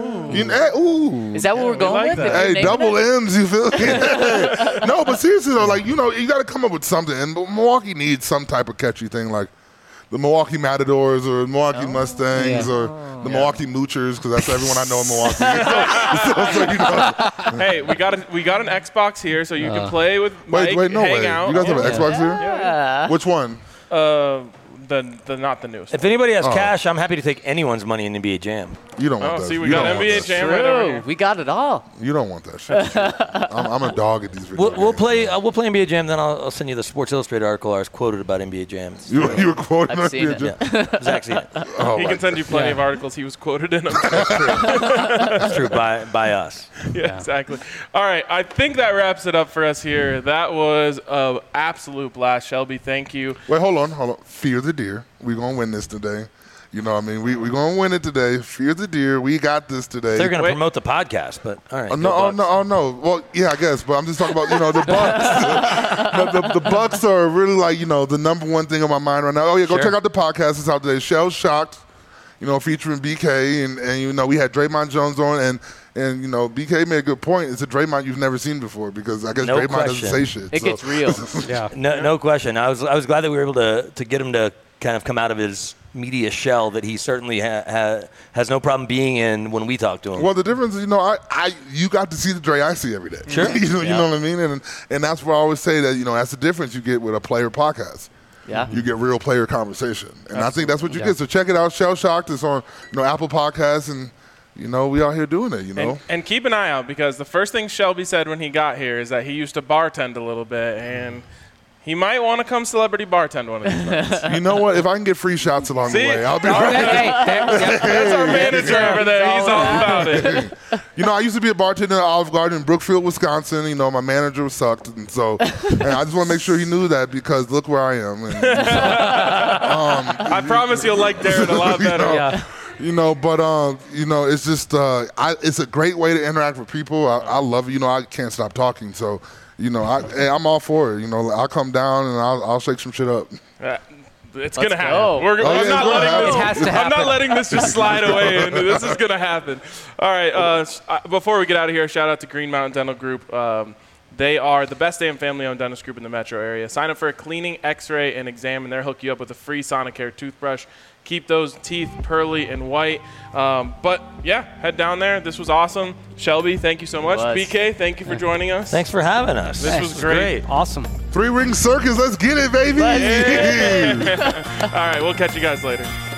Is that what we're going like with? that. If you're Hey, naming double it? M's, you feel me? No, but seriously though, like, you got to come up with something. And Milwaukee needs some type of catchy thing like the Milwaukee Matadors or Milwaukee Mustangs or the Milwaukee Moochers, because that's everyone I know in Milwaukee. So, Hey, we got an Xbox here, so you can play with Mike, wait, no hang way. out. You guys have an Yeah. Xbox here? Yeah. Which one? The not the newest. If anybody has cash, I'm happy to take anyone's money in NBA Jam. You don't want Oh, that. see, we You got don't want NBA that. Jam right over True. here. We got it all. You don't want that shit. I'm a dog at these video We'll games. play NBA Jam, then I'll send you the Sports Illustrated article I was quoted about NBA Jam. You were quoting I've seen NBA it. Jam? Yeah. Zach's seen it. Oh, He my can send you plenty of articles he was quoted in them. It's true by us. Yeah, exactly. All right, I think that wraps it up for us here. That was an absolute blast. Shelby, thank you. Wait, hold on. Fear the deer. We're going to win this today. You know what I mean? We're going to win it today. Fear the deer. We got this today. They're going to Wait. promote the podcast, but all right. Oh, go no, oh, Bucks. no, oh, no. Well, yeah, I guess. But I'm just talking about, the Bucks. the Bucks are really like, the number one thing on my mind right now. Oh, yeah, go Sure. check out the podcast. It's out today. Shell Shocked, featuring BK. And we had Draymond Jones on. And BK made a good point. It's a Draymond you've never seen before because I guess No Draymond question. doesn't say shit. It so. gets real. Yeah. No question. I was glad that we were able to get him to kind of come out of his media shell that he certainly has no problem being in when we talk to him. Well, the difference is, you got to see the Dre I see every day. Sure. you know what I mean? And that's where I always say that, that's the difference you get with a player podcast. Yeah. You get real player conversation. And I think that's what you get. So check it out. Shell Shocked is on, Apple Podcasts, and, we out here doing it, And keep an eye out because the first thing Shelby said when he got here is that he used to bartend a little bit, and he might want to come celebrity bartend one of these nights. You know what? If I can get free shots along See? the way, I'll be All right. That's our manager over there. He's all about it. I used to be a bartender at Olive Garden in Brookfield, Wisconsin. My manager sucked. And so and I just want to make sure he knew that because look where I am. And, I promise you'll like Darren a lot better. Yeah. It's just it's a great way to interact with people. I love it. I can't stop talking. So, I'm all for it. I'll come down and I'll shake some shit up. It's going to go. happen. yeah, it's gonna happen. It has to I'm not happen. letting this just slide away. And this is going to happen. All right. Before we get out of here, shout out to Green Mountain Dental Group. They are the best damn family-owned dentist group in the metro area. Sign up for a cleaning, x-ray, and exam, and they'll hook you up with a free Sonicare toothbrush. Keep those teeth pearly and white. But, yeah, head down there. This was awesome. Shelby, thank you so much. Was. BK, thank you for joining us. Thanks for having us. This was great. Awesome. 3 Ring Circus. Let's get it, baby. All right, we'll catch you guys later.